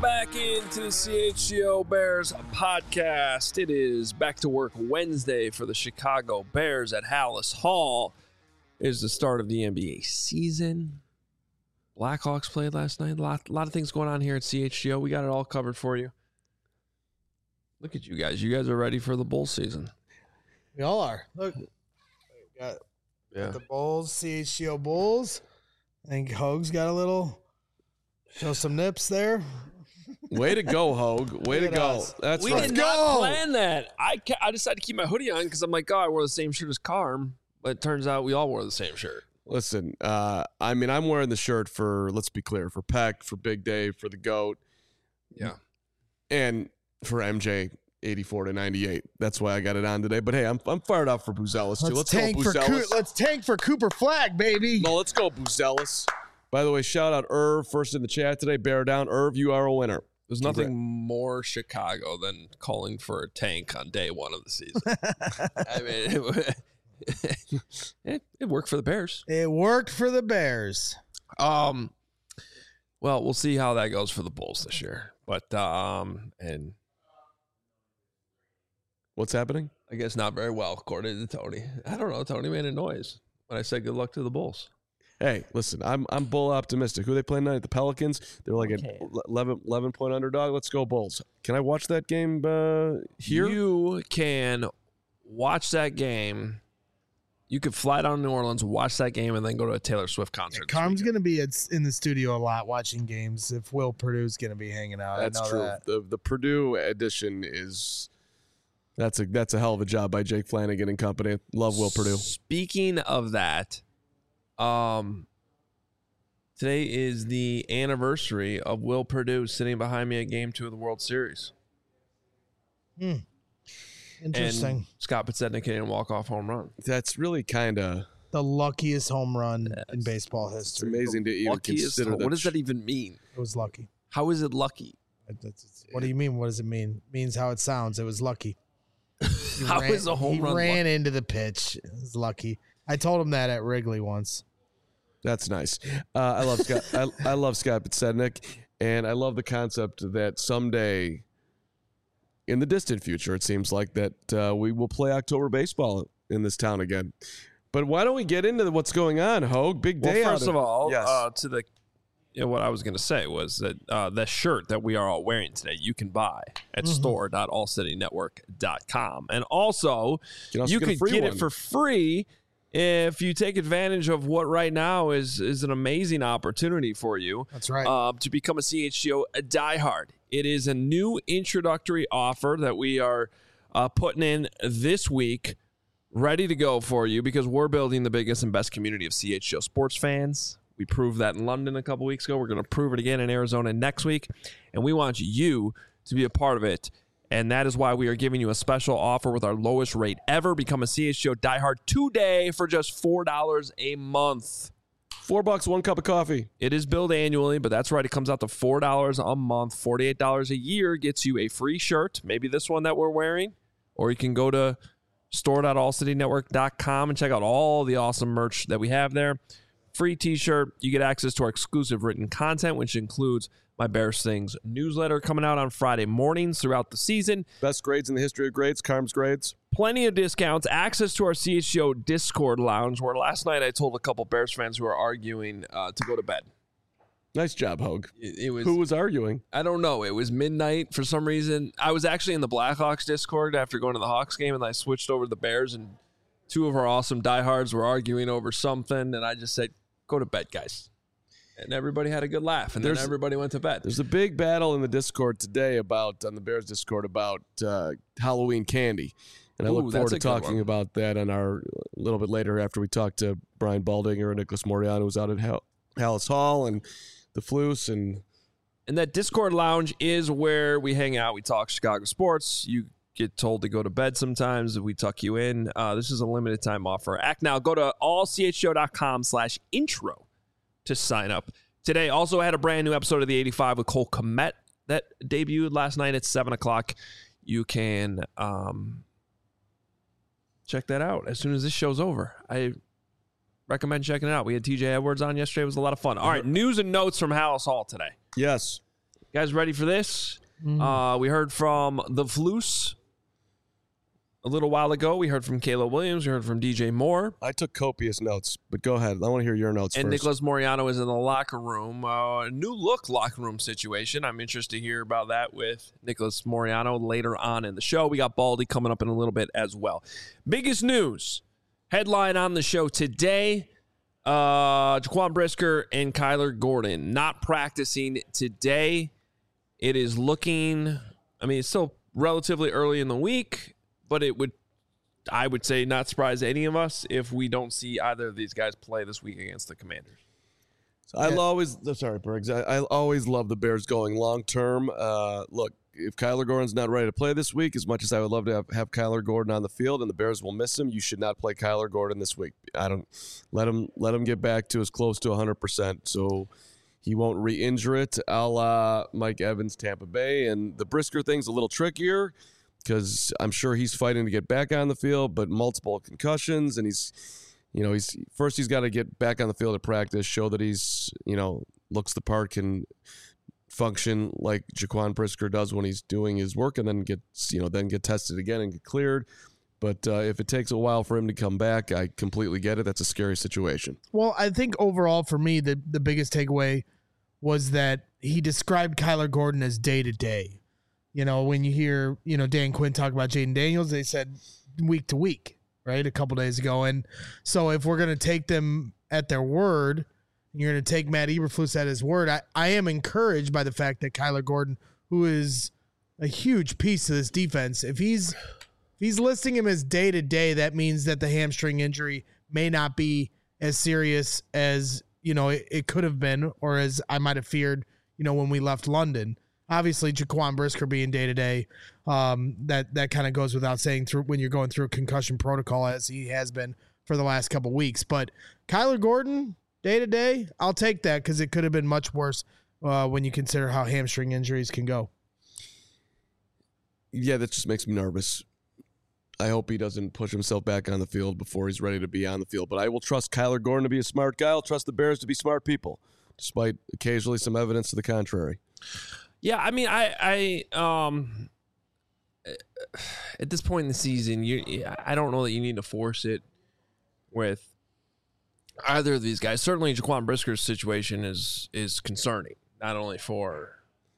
back into the CHGO Bears podcast. It is back to work Wednesday for the Chicago Bears at Halas Hall. It is the start of the NBA season. Blackhawks played last night. A lot of things going on here at CHGO. We got it all covered for you. Look at you guys. You guys are ready for the Bulls season. We all are. Look, got the Bulls, CHGO Bulls. I think Hoag's got a little, show some nips there. Way to go, Hoag. Way to go. That's we right. We did not plan that. I decided to keep my hoodie on because I'm like, I wore the same shirt as Carm. But it turns out we all wore the same shirt. Listen, I'm wearing the shirt for, let's be clear, for Peck, for Big Dave, for the GOAT. Yeah. And for MJ, 84 to 98. That's why I got it on today. But hey, I'm fired up for Buzelis too. Let's go, Buzelis. Let's tank for Cooper Flag, baby. No, let's go, Buzelis. By the way, shout out Irv, first in the chat today. Bear down. Irv, you are a winner. There's nothing more Chicago than calling for a tank on day one of the season. I mean, it worked for the Bears. It worked for the Bears. Well, we'll see how that goes for the Bulls this year. But and what's happening? I guess not very well, according to Tony. I don't know. Tony made a noise when I said good luck to the Bulls. Hey, listen, I'm bull optimistic. Who are they playing tonight? The Pelicans. They're like an 11-point underdog. Let's go Bulls. Can I watch that game here? You can watch that game. You could fly down to New Orleans, watch that game, and then go to a Taylor Swift concert. Carm's going to be in the studio a lot watching games if Will Purdue's going to be hanging out. That's true. The Purdue edition is that's a hell of a job by Jake Flanagan and company. Love Will Purdue. Speaking of that, today is the anniversary of Will Purdue sitting behind me at Game 2 of the World Series. Interesting. And Scott Podsednik hitting a walk-off home run. That's really kind of the luckiest home run in baseball history. It's amazing to even consider that. What does that even mean? It was lucky. How is it lucky? What do you mean? What does it mean? It means how it sounds. It was lucky. Is a home run? He ran lucky? into the pitch. It was lucky. I told him that at Wrigley once. That's nice. I love Scott. I love Scott Podsednik, and I love the concept that someday, in the distant future, it seems like that we will play October baseball in this town again. But why don't we get into what's going on, Hoag? Big day. Well, first of all, yes. to the what I was going to say was that the shirt that we are all wearing today, you can buy at store.allcitynetwork.com. And also, you can get it for free if you take advantage of what right now is an amazing opportunity for you. That's right. To become a CHGO diehard. It is a new introductory offer that we are putting in this week, ready to go for you because we're building the biggest and best community of CHGO sports fans. We proved that in London a couple weeks ago. We're going to prove it again in Arizona next week, and we want you to be a part of it. And that is why we are giving you a special offer with our lowest rate ever. Become a CHGO diehard today for just $4 a month. $4, 1 cup of coffee. It is billed annually, but that's right. It comes out to $4 a month. $48 a year gets you a free shirt, maybe this one that we're wearing, or you can go to store.allcitynetwork.com and check out all the awesome merch that we have there. Free t-shirt. You get access to our exclusive written content, which includes my Bears Things newsletter coming out on Friday mornings throughout the season. Best grades in the history of grades, Carm's grades. Plenty of discounts, access to our CHGO Discord lounge, where last night I told a couple Bears fans who were arguing to go to bed. Nice job, Hoag. Who was arguing? I don't know. It was midnight for some reason. I was actually in the Blackhawks Discord after going to the Hawks game, and I switched over to the Bears, and two of our awesome diehards were arguing over something, and I just said, go to bed, guys. And everybody had a good laugh, and then everybody went to bed. There's a big battle in the Discord today on the Bears Discord about Halloween candy. And I look forward to talking about that on a little bit later after we talk to Brian Baldinger and Nicholas Moriano, who's out at Halas Hall, and the Floos. And that Discord lounge is where we hang out. We talk Chicago sports. You get told to go to bed sometimes. We tuck you in. This is a limited time offer. Act now. Go to allchgo.com/intro to sign up. Today also had a brand new episode of the 85 with Cole Kmet that debuted last night at 7 o'clock. You can check that out as soon as this show's over. I recommend checking it out. We had TJ Edwards on yesterday. It was a lot of fun. All right, news and notes from Halas Hall today. Yes. You guys ready for this? We heard from the Floos a little while ago. We heard from Caleb Williams. We heard from DJ Moore. I took copious notes, but go ahead. I want to hear your notes and first. Nicholas Moreano is in the locker room. A new look locker room situation. I'm interested to hear about that with Nicholas Moreano later on in the show. We got Baldy coming up in a little bit as well. Biggest news, headline on the show today, Jaquan Brisker and Kyler Gordon not practicing today. It is looking, it's still relatively early in the week, but I would say, not surprise any of us if we don't see either of these guys play this week against the Commanders. So Bergs. I always love the Bears going long term. Look, if Kyler Gordon's not ready to play this week, as much as I would love to have Kyler Gordon on the field and the Bears will miss him, you should not play Kyler Gordon this week. I don't let him get back to as close to 100%, so he won't re-injure it, a la Mike Evans, Tampa Bay. And the Brisker thing's a little trickier, because I'm sure he's fighting to get back on the field, but multiple concussions, and he's got to get back on the field at practice, show that he's, looks the part, can function like Jaquan Brisker does when he's doing his work, and then get tested again and get cleared. But if it takes a while for him to come back, I completely get it. That's a scary situation. Well, I think overall for me, the biggest takeaway was that he described Kyler Gordon as day-to-day. When you hear, Dan Quinn talk about Jaden Daniels, they said week to week, right, a couple days ago. And so if we're going to take them at their word, you're going to take Matt Eberflus at his word, I am encouraged by the fact that Kyler Gordon, who is a huge piece of this defense, if he's listing him as day-to-day, that means that the hamstring injury may not be as serious as, it could have been, or as I might have feared, when we left London. Obviously, Jaquan Brisker being day-to-day, that kind of goes without saying through when you're going through a concussion protocol, as he has been for the last couple weeks. But Kyler Gordon, day-to-day, I'll take that, because it could have been much worse when you consider how hamstring injuries can go. Yeah, that just makes me nervous. I hope he doesn't push himself back on the field before he's ready to be on the field. But I will trust Kyler Gordon to be a smart guy. I'll trust the Bears to be smart people, despite occasionally some evidence to the contrary. Yeah, I at this point in the season, I don't know that you need to force it with either of these guys. Certainly, Jaquan Brisker's situation is concerning, not only for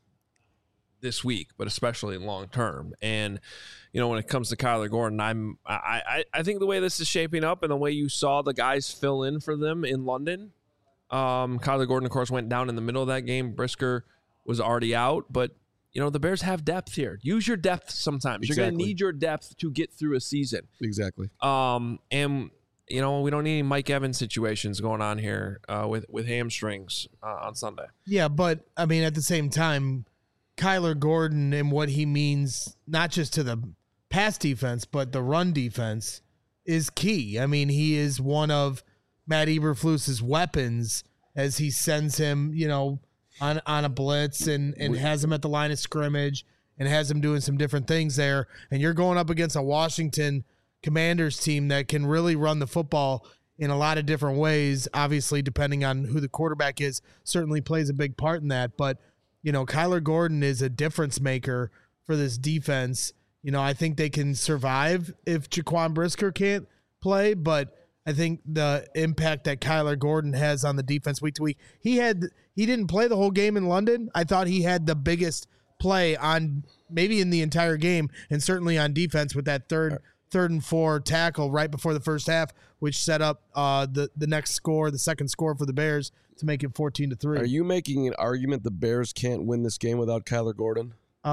this week, but especially long term. And when it comes to Kyler Gordon, I think the way this is shaping up and the way you saw the guys fill in for them in London, Kyler Gordon, of course, went down in the middle of that game. Brisker was already out, but the Bears have depth here. Use your depth sometimes. Exactly. You're going to need your depth to get through a season. Exactly. And we don't need any Mike Evans situations going on here with hamstrings on Sunday. Yeah, but at the same time, Kyler Gordon and what he means, not just to the pass defense, but the run defense, is key. He is one of Matt Eberflus's weapons as he sends him, on a blitz and has him at the line of scrimmage and has him doing some different things there. And you're going up against a Washington Commanders team that can really run the football in a lot of different ways. Obviously, depending on who the quarterback is, certainly plays a big part in that. But, Kyler Gordon is a difference maker for this defense. I think they can survive if Jaquan Brisker can't play, but I think the impact that Kyler Gordon has on the defense week to week, he didn't play the whole game in London. I thought he had the biggest play on maybe in the entire game, and certainly on defense with that third and 4 tackle right before the first half, which set up the next score, the second score for the Bears to make it 14-3. Are you making an argument the Bears can't win this game without Kyler Gordon?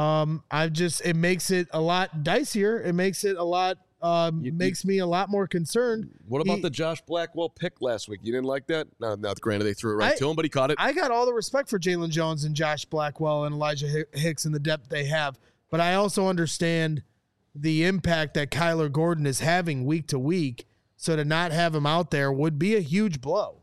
It makes it a lot dicier. It makes it a lot. Makes me a lot more concerned. What about the Josh Blackwell pick last week? You didn't like that? No, granted, they threw it right to him, but he caught it. I got all the respect for Jalen Jones and Josh Blackwell and Elijah Hicks and the depth they have, but I also understand the impact that Kyler Gordon is having week to week, so to not have him out there would be a huge blow.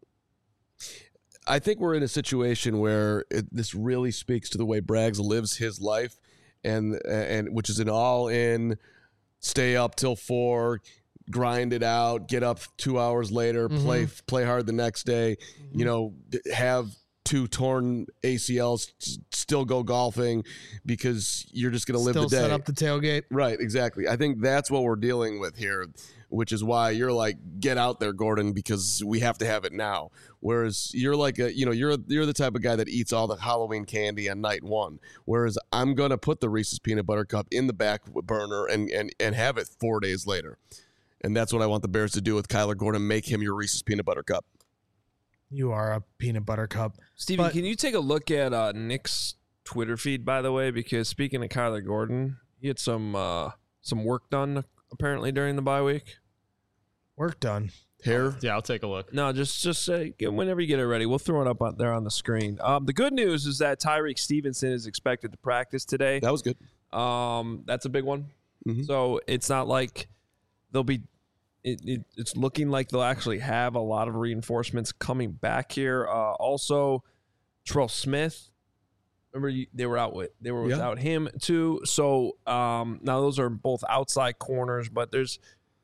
I think we're in a situation where this really speaks to the way Braggs lives his life, and which is an all-in, stay up till 4, grind it out, get up 2 hours later, play hard the next day, have 2 torn ACLs, still go golfing because you're just going to live Still the day. set up the tailgate. Right, exactly. I think that's what we're dealing with here, which is why you're like, get out there, Gordon, because we have to have it now. Whereas you're like you're the type of guy that eats all the Halloween candy on night 1. Whereas I'm gonna put the Reese's Peanut Butter Cup in the back burner and have it 4 days later. And that's what I want the Bears to do with Kyler Gordon. Make him your Reese's Peanut Butter Cup. You are a peanut butter cup. Stevie, can you take a look at Nick's Twitter feed, by the way? Because speaking of Kyler Gordon, he had some work done apparently during the bye week. Work done. Hair? Yeah, I'll take a look. No, just whenever you get it ready, we'll throw it up there on the screen. The good news is that Tyreek Stevenson is expected to practice today. That was good. That's a big one. Mm-hmm. So it's not like they'll be. It's looking like they'll actually have a lot of reinforcements coming back here. Also, Terrell Smith. Remember they were without him too. So now those are both outside corners, but there's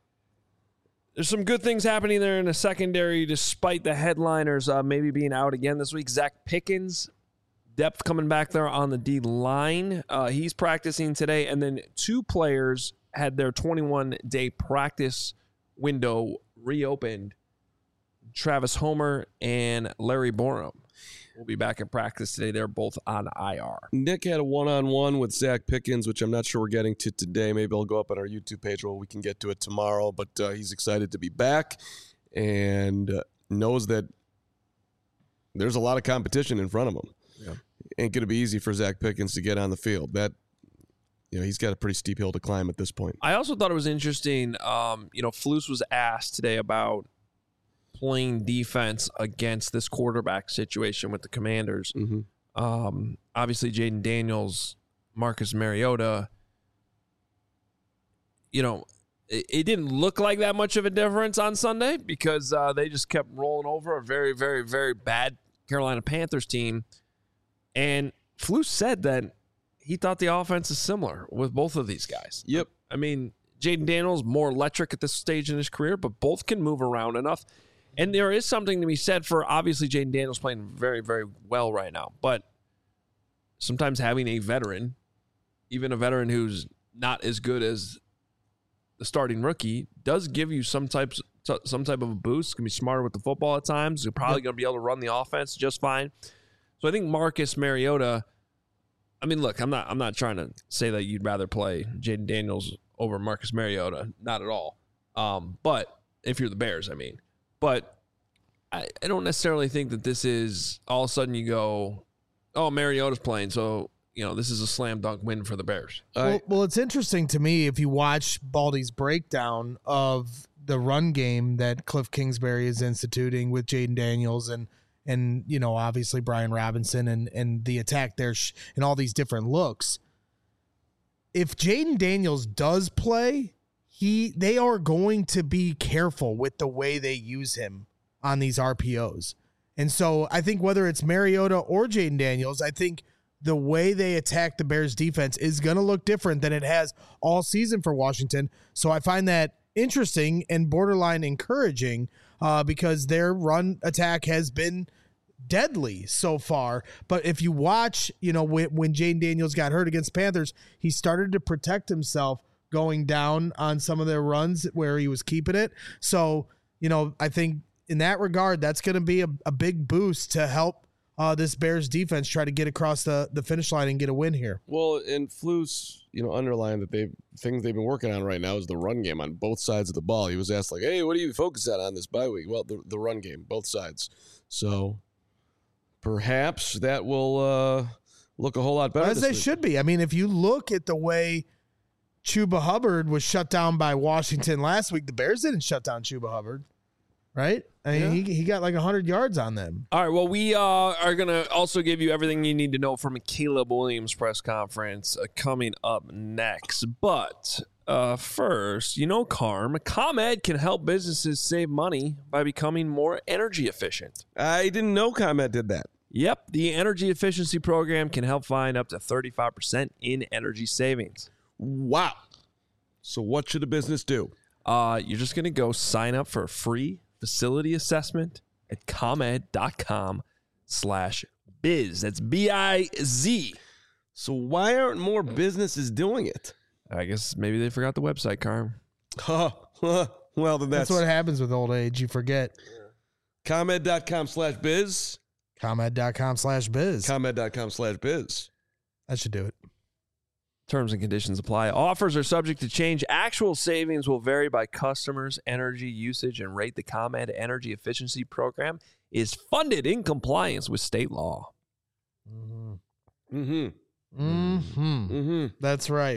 some good things happening there in the secondary, despite the headliners maybe being out again this week. Zach Pickens, depth coming back there on the D line. He's practicing today, and then 2 players had their 21-day practice window reopened. Travis Homer and Larry Borum will be back in practice today. They're both on IR. Nick had a one-on-one with Zach Pickens, which I'm not sure we're getting to today. Maybe I'll go up on our YouTube page where we can get to it tomorrow. But he's excited to be back and knows that there's a lot of competition in front of him. Yeah. Ain't going to be easy for Zach Pickens to get on the field. That he's got a pretty steep hill to climb at this point. I also thought it was interesting. Flus was asked today about playing defense against this quarterback situation with the Commanders. Mm-hmm. Obviously, Jaden Daniels, Marcus Mariota. It didn't look like that much of a difference on Sunday because they just kept rolling over a very, very, very bad Carolina Panthers team. And Flus said that he thought the offense is similar with both of these guys. Yep. I mean, Jaden Daniels more electric at this stage in his career, but both can move around enough. And there is something to be said for, obviously, Jaden Daniels playing very, very well right now. But sometimes having a veteran, even a veteran who's not as good as the starting rookie, does give you some type of a boost. Can be smarter with the football at times. You're probably going to be able to run the offense just fine. So I think Marcus Mariota. I mean, look, I'm not trying to say that you'd rather play Jaden Daniels over Marcus Mariota. Not at all. But if you're the Bears, I mean. But I don't necessarily think that this is all of a sudden you go, oh, Mariota's playing, so this is a slam dunk win for the Bears. Well, it's interesting to me if you watch Baldy's breakdown of the run game that Cliff Kingsbury is instituting with Jaden Daniels and obviously Brian Robinson and the attack there and all these different looks. If Jaden Daniels does play, they are going to be careful with the way they use him on these RPOs. And so I think whether it's Mariota or Jaden Daniels, I think the way they attack the Bears defense is going to look different than it has all season for Washington. So I find that interesting and borderline encouraging because their run attack has been deadly so far. But if you watch, when Jaden Daniels got hurt against Panthers, he started to protect himself going down on some of their runs where he was keeping it. So, I think in that regard, that's going to be a big boost to help this Bears defense try to get across the finish line and get a win here. Well, and Flus, underlined that things they've been working on right now is the run game on both sides of the ball. He was asked like, hey, what do you focus on this bye week? Well, the run game, both sides. So perhaps that will look a whole lot better. As they should be. I mean, if you look at the way Chuba Hubbard was shut down by Washington last week, the Bears didn't shut down Chuba Hubbard, right? I mean, he got like 100 yards on them. All right, well, we are going to also give you everything you need to know from a Caleb Williams press conference coming up next. But first, ComEd can help businesses save money by becoming more energy efficient. I didn't know ComEd did that. Yep, the energy efficiency program can help find up to 35% in energy savings. Wow. So what should a business do? You're just going to go sign up for a free facility assessment at ComEd.com/save. biz. That's BIZ. So why aren't more businesses doing it? I guess maybe they forgot the website, Carm. Well, then That's what happens with old age. You forget. ComEd.com/biz. ComEd.com/biz. ComEd.com/biz. That should do it. Terms and conditions apply. Offers are subject to change. Actual savings will vary by customers' energy usage and rate. The ComEd Energy Efficiency Program is funded in compliance with state law. That's right.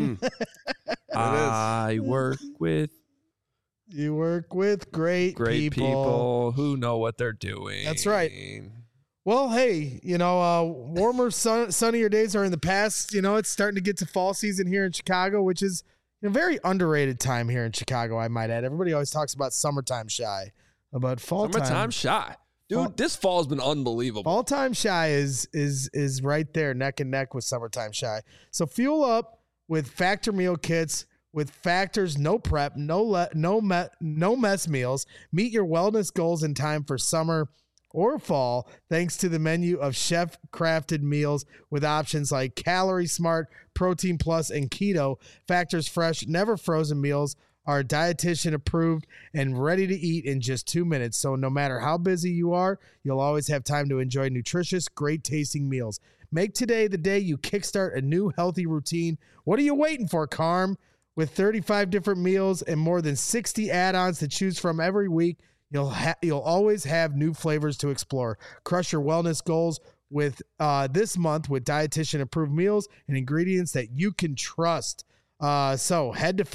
I work with You work with great people who know what they're doing. That's right. Well, hey, warmer, sunnier days are in the past. It's starting to get to fall season here in Chicago, which is a very underrated time here in Chicago, I might add. Everybody always talks about summertime shy, about fall time. Summertime shy. Dude, this fall has been unbelievable. Fall time shy is right there, neck and neck with summertime shy. So fuel up with Factor meal kits. With Factor's no prep, no mess meals. Meet your wellness goals in time for summer or fall, thanks to the menu of chef-crafted meals with options like Calorie Smart, Protein Plus, and Keto. Factor's fresh, never frozen meals are dietitian approved and ready to eat in just 2 minutes. So no matter how busy you are, you'll always have time to enjoy nutritious, great tasting meals. Make today the day you kickstart a new healthy routine. What are you waiting for, Carm? With 35 different meals and more than 60 add-ons to choose from every week, you'll always have new flavors to explore. Crush your wellness goals with this month with dietitian-approved meals and ingredients that you can trust. So head to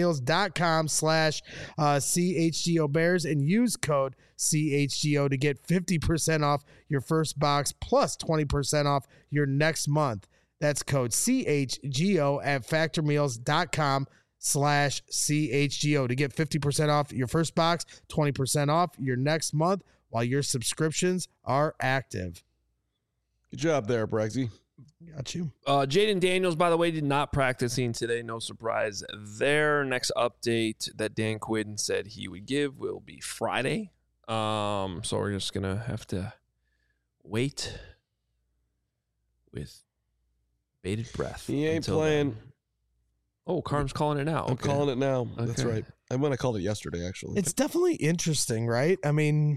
factormeals.com/CHGO Bears and use code CHGO to get 50% off your first box plus 20% off your next month. That's code CHGO at factormeals.com/CHGO to get 50% off your first box, 20% off your next month while your subscriptions are active. Good job there, Brexy. Got you. Jaden Daniels, by the way, did not practicing today. No surprise there. Next update that Dan Quinn said he would give will be Friday. So we're just going to have to wait with bated breath. He ain't playing. Then. Oh, Carm's calling it now. I'm calling it now. Okay. That's right. I went. I called it yesterday, actually. It's definitely interesting, right? I mean,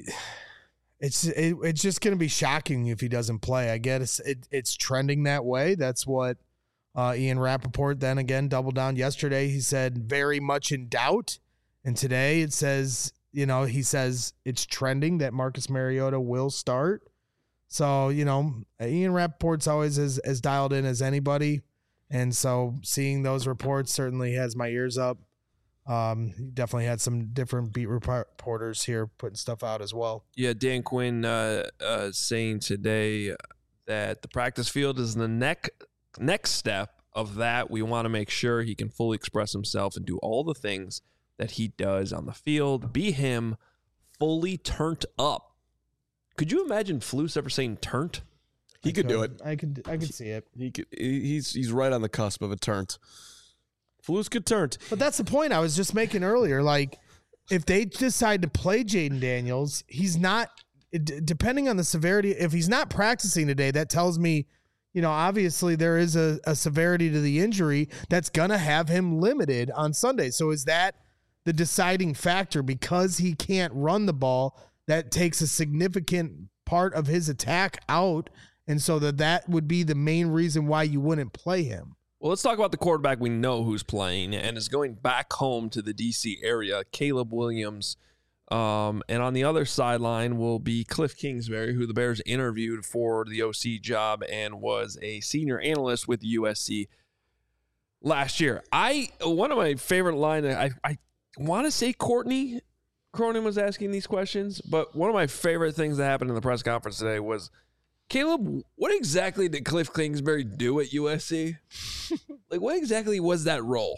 it's just going to be shocking if he doesn't play. I guess it's trending that way. That's what Ian Rappaport then again doubled down yesterday. He said very much in doubt, and today it says he says it's trending that Marcus Mariota will start. So, Ian Rappaport's always as dialed in as anybody. And so seeing those reports certainly has my ears up. He definitely had some different beat reporters here putting stuff out as well. Yeah, Dan Quinn saying today that the practice field is the next step of that. We want to make sure he can fully express himself and do all the things that he does on the field. Be him, fully turned up. Could you imagine Flus ever saying turnt? He could do it. I could see it. He could. He's right on the cusp of a turnt. Flus could turnt. But that's the point I was just making earlier. Like, if they decide to play Jaden Daniels, he's not. Depending on the severity, if he's not practicing today, that tells me, obviously there is a severity to the injury that's gonna have him limited on Sunday. So is that the deciding factor because he can't run the ball? That takes a significant part of his attack out, and so that would be the main reason why you wouldn't play him. Well, let's talk about the quarterback we know who's playing and is going back home to the D.C. area, Caleb Williams. And on the other sideline will be Cliff Kingsbury, who the Bears interviewed for the OC job and was a senior analyst with USC last year. One of my favorite lines, I want to say Courtney Cronin was asking these questions, but one of my favorite things that happened in the press conference today was, Caleb, what exactly did Cliff Kingsbury do at USC? Like, what exactly was that role?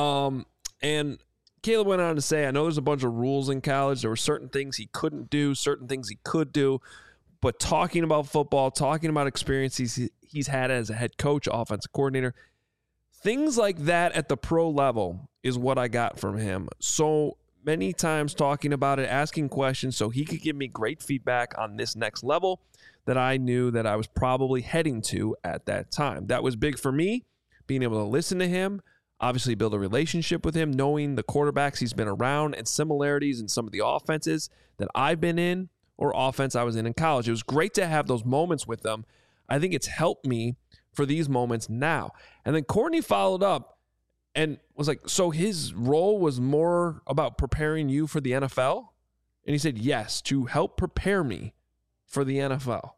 And Caleb went on to say, I know there's a bunch of rules in college. There were certain things he couldn't do, certain things he could do, but talking about football, talking about experiences he's had as a head coach, offensive coordinator, things like that at the pro level is what I got from him. So many times talking about it, asking questions so he could give me great feedback on this next level that I knew that I was probably heading to at that time. That was big for me, being able to listen to him, obviously build a relationship with him, knowing the quarterbacks he's been around and similarities in some of the offenses that I've been in or offense I was in college. It was great to have those moments with them. I think it's helped me for these moments now. And then Courtney followed up and was like, so his role was more about preparing you for the NFL? And he said, yes, to help prepare me for the NFL.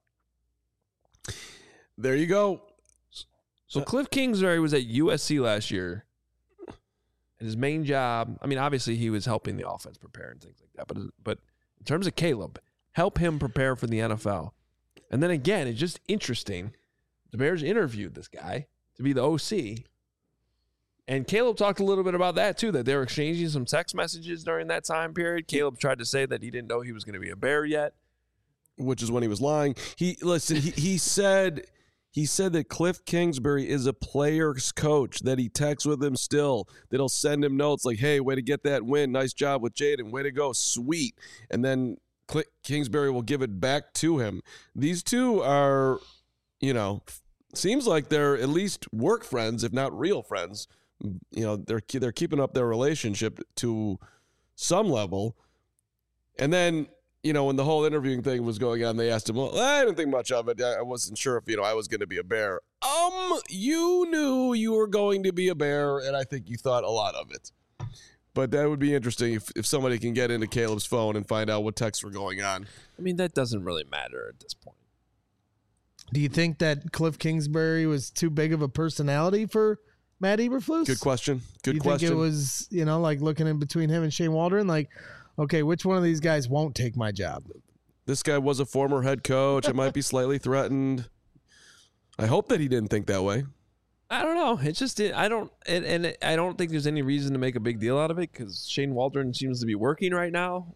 There you go. So Cliff Kingsbury was at USC last year. And his main job, I mean, obviously he was helping the offense prepare and things like that. But in terms of Caleb, help him prepare for the NFL. And then again, it's just interesting. The Bears interviewed this guy to be the OC. And Caleb talked a little bit about that too, that they were exchanging some text messages during that time period. Caleb tried to say that he didn't know he was going to be a Bear yet. Which is when he was lying. He said that Cliff Kingsbury is a player's coach, that he texts with him still, that he'll send him notes like, hey, way to get that win. Nice job with Jaden. Way to go. Sweet. And then Kingsbury will give it back to him. These two are, seems like they're at least work friends, if not real friends. They're keeping up their relationship to some level. And then, when the whole interviewing thing was going on, they asked him, well, I didn't think much of it. I wasn't sure if, I was going to be a Bear. You knew you were going to be a Bear, and I think you thought a lot of it. But that would be interesting if somebody can get into Caleb's phone and find out what texts were going on. I mean, that doesn't really matter at this point. Do you think that Cliff Kingsbury was too big of a personality for Matt Eberflus? Good question. You think it was, like looking in between him and Shane Waldron, like, okay, which one of these guys won't take my job? This guy was a former head coach. It might be slightly threatened. I hope that he didn't think that way. I don't know. It's just I don't think there's any reason to make a big deal out of it because Shane Waldron seems to be working right now.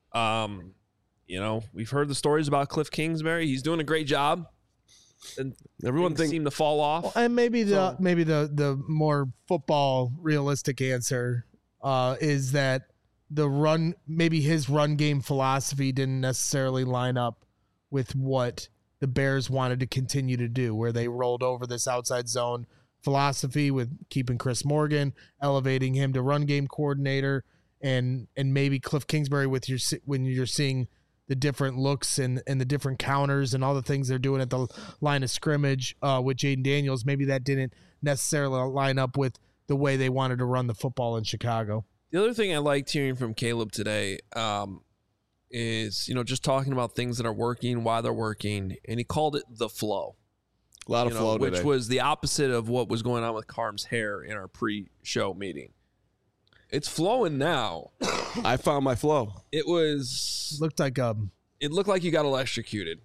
We've heard the stories about Cliff Kingsbury. He's doing a great job. And everyone seem to fall off. Well, and maybe the more football realistic answer is that maybe his run game philosophy didn't necessarily line up with what the Bears wanted to continue to do, where they rolled over this outside zone philosophy with keeping Chris Morgan, elevating him to run game coordinator, and maybe Cliff Kingsbury when you're seeing the different looks and the different counters and all the things they're doing at the line of scrimmage with Jaden Daniels, maybe that didn't necessarily line up with the way they wanted to run the football in Chicago. The other thing I liked hearing from Caleb today is, just talking about things that are working, why they're working, and he called it the flow. A lot of flow today. Which was the opposite of what was going on with Carm's hair in our pre-show meeting. It's flowing now. I found my flow. It looked like you got electrocuted.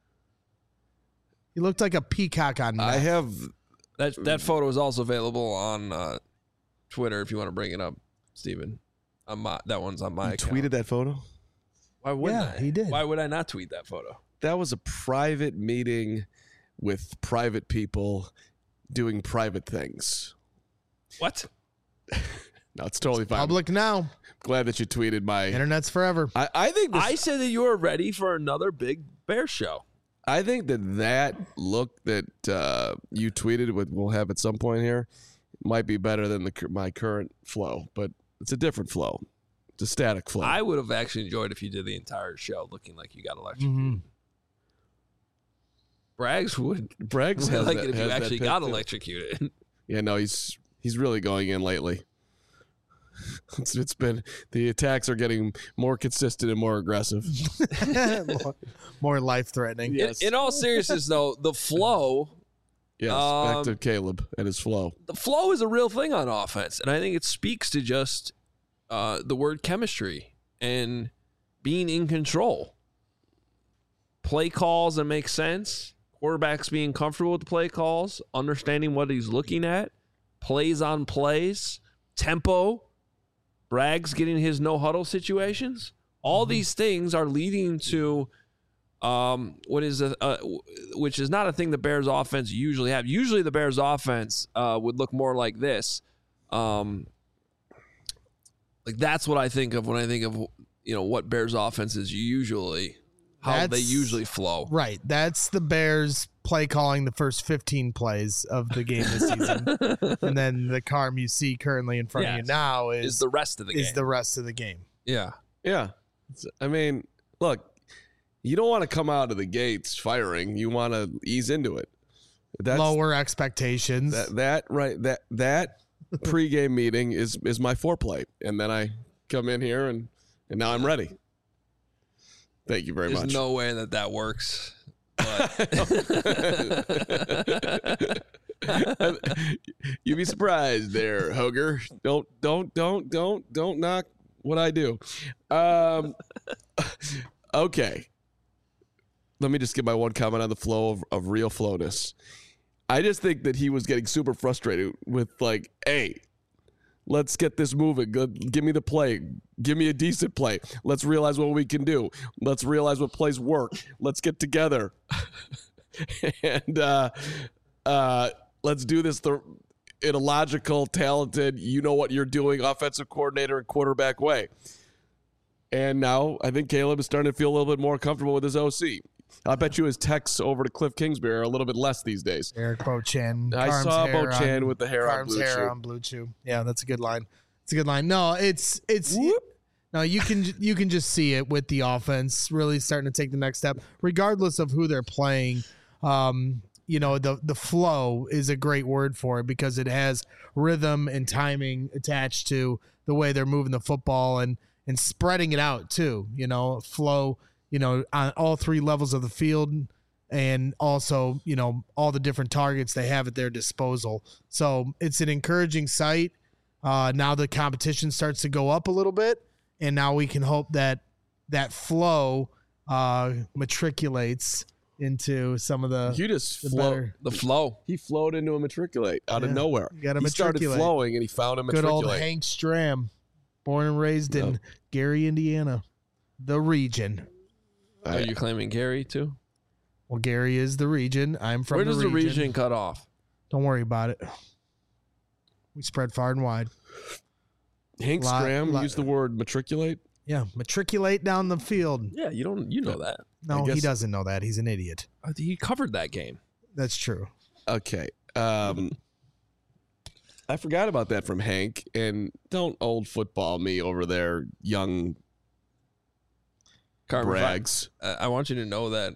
You looked like a peacock on meth. I have that photo is also available on Twitter if you want to bring it up, Steven. That one's on my account. Tweeted that photo? Why wouldn't I? He did. Why would I not tweet that photo? That was a private meeting with private people doing private things. What? No, it's totally fine. Public now. Glad that you tweeted my internet's forever. I think I said that you were ready for another big Bear show. I think that look that you tweeted we'll have at some point here might be better than my current flow, but it's a different flow. It's a static flow. I would have actually enjoyed if you did the entire show looking like you got electrocuted. Mm-hmm. Braggs has like it if you actually got electrocuted. Yeah, no, he's really going in lately. It's been the attacks are getting more consistent and more aggressive, more life-threatening. Yes. In all seriousness, though, the flow. Yes, back to Caleb and his flow. The flow is a real thing on offense, and I think it speaks to just the word chemistry and being in control. Play calls that make sense. Quarterbacks being comfortable with the play calls, understanding what he's looking at, plays on plays, tempo. Braggs getting his no-huddle situations. All these things are leading to which is not a thing the Bears offense usually have. Usually the Bears offense would look more like this. Like Like that's what I think of when I think of what Bears offenses usually how they usually flow. Right. That's the Bears play calling the first 15 plays of the game this season. And then the Carm you see currently in front of you now is the rest of the game. Is the rest of the game. Yeah. Yeah. I mean, look, you don't want to come out of the gates firing. You want to ease into it. That's, lower expectations. That pregame meeting is my foreplay. And then I come in here and now I'm ready. Thank you very much. There's no way that works. But you'd be surprised there, Hoger. Don't knock what I do. Okay. Let me just give my one comment on the flow of real flowness. I just think that he was getting super frustrated with like, hey, let's get this moving. Give me the play. Give me a decent play. Let's realize what we can do. Let's realize what plays work. Let's get together. And let's do this in a logical, talented, you know what you're doing, offensive coordinator and quarterback way. And now I think Caleb is starting to feel a little bit more comfortable with his OC. I bet you his texts over to Cliff Kingsbury are a little bit less these days. Eric Bochan. I saw Bochan with the hair on Blue Chew. On Blue Chew. Yeah, that's a good line. It's a good line. No, it's no, you can just see it with the offense really starting to take the next step, regardless of who they're playing. The flow is a great word for it because it has rhythm and timing attached to the way they're moving the football and spreading it out too. Flow. On all three levels of the field and also, all the different targets they have at their disposal. So it's an encouraging sight. Now the competition starts to go up a little bit, and now we can hope that flow matriculates into some of the the flow. He flowed into a matriculate out of nowhere. He started flowing, and he found a matriculate. Good old Hank Stram, born and raised in Gary, Indiana, the region. Are you claiming Gary too? Well, Gary is the region. I'm from the region. Where does the region cut off? Don't worry about it. We spread far and wide. Hank Stram used the word matriculate? Yeah, matriculate down the field. Yeah, you know that. No, he doesn't know that. He's an idiot. He covered that game. That's true. Okay. I forgot about that from Hank, and don't old football me over there, young brags. I want you to know that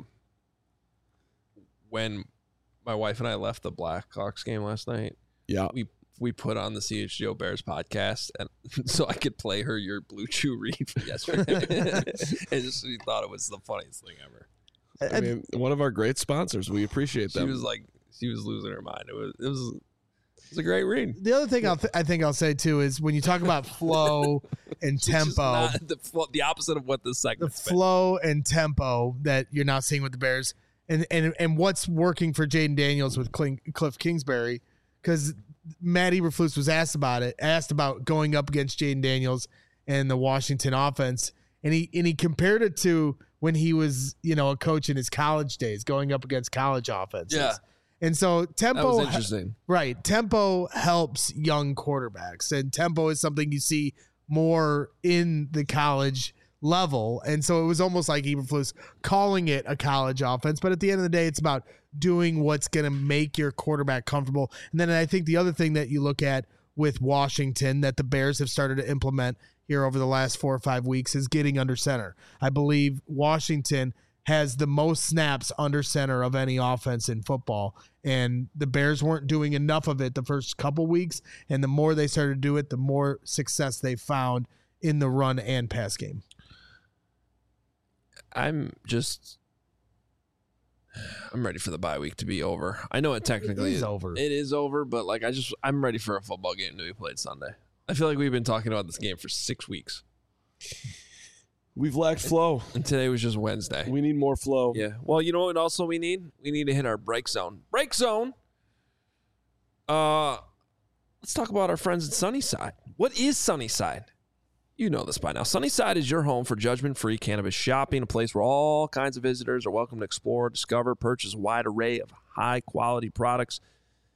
when my wife and I left the Blackhawks game last night, we put on the CHGO Bears podcast, and so I could play her your Blue Chew read from yesterday. And she thought it was the funniest thing ever. I mean, one of our great sponsors. We appreciate them. She was losing her mind. It was a great read. The other thing I think I'll say too is when you talk about flow and tempo, the opposite of what this segment. The flow and tempo that you're not seeing with the Bears, and what's working for Jaden Daniels with Cliff Kingsbury, because Matt Eberflus was asked about going up against Jaden Daniels and the Washington offense, and he compared it to when he was a coach in his college days, going up against college offenses. Yeah. And so tempo, that was interesting. Right? Tempo helps young quarterbacks, and tempo is something you see more in the college level. And so it was almost like Eberflus calling it a college offense, but at the end of the day, it's about doing what's going to make your quarterback comfortable. And then I think the other thing that you look at with Washington that the Bears have started to implement here over the last 4 or 5 weeks is getting under center. I believe Washington has the most snaps under center of any offense in football. And the Bears weren't doing enough of it the first couple weeks. And the more they started to do it, the more success they found in the run and pass game. I'm ready for the bye week to be over. I know it technically is over. It is over, but I'm ready for a football game to be played Sunday. I feel like we've been talking about this game for 6 weeks. We've lacked flow. And today was just Wednesday. We need more flow. Yeah. Well, you know what also we need? We need to hit our break zone. Break zone. Let's talk about our friends at Sunnyside. What is Sunnyside? You know this by now. Sunnyside is your home for judgment-free cannabis shopping, a place where all kinds of visitors are welcome to explore, discover, purchase a wide array of high-quality products.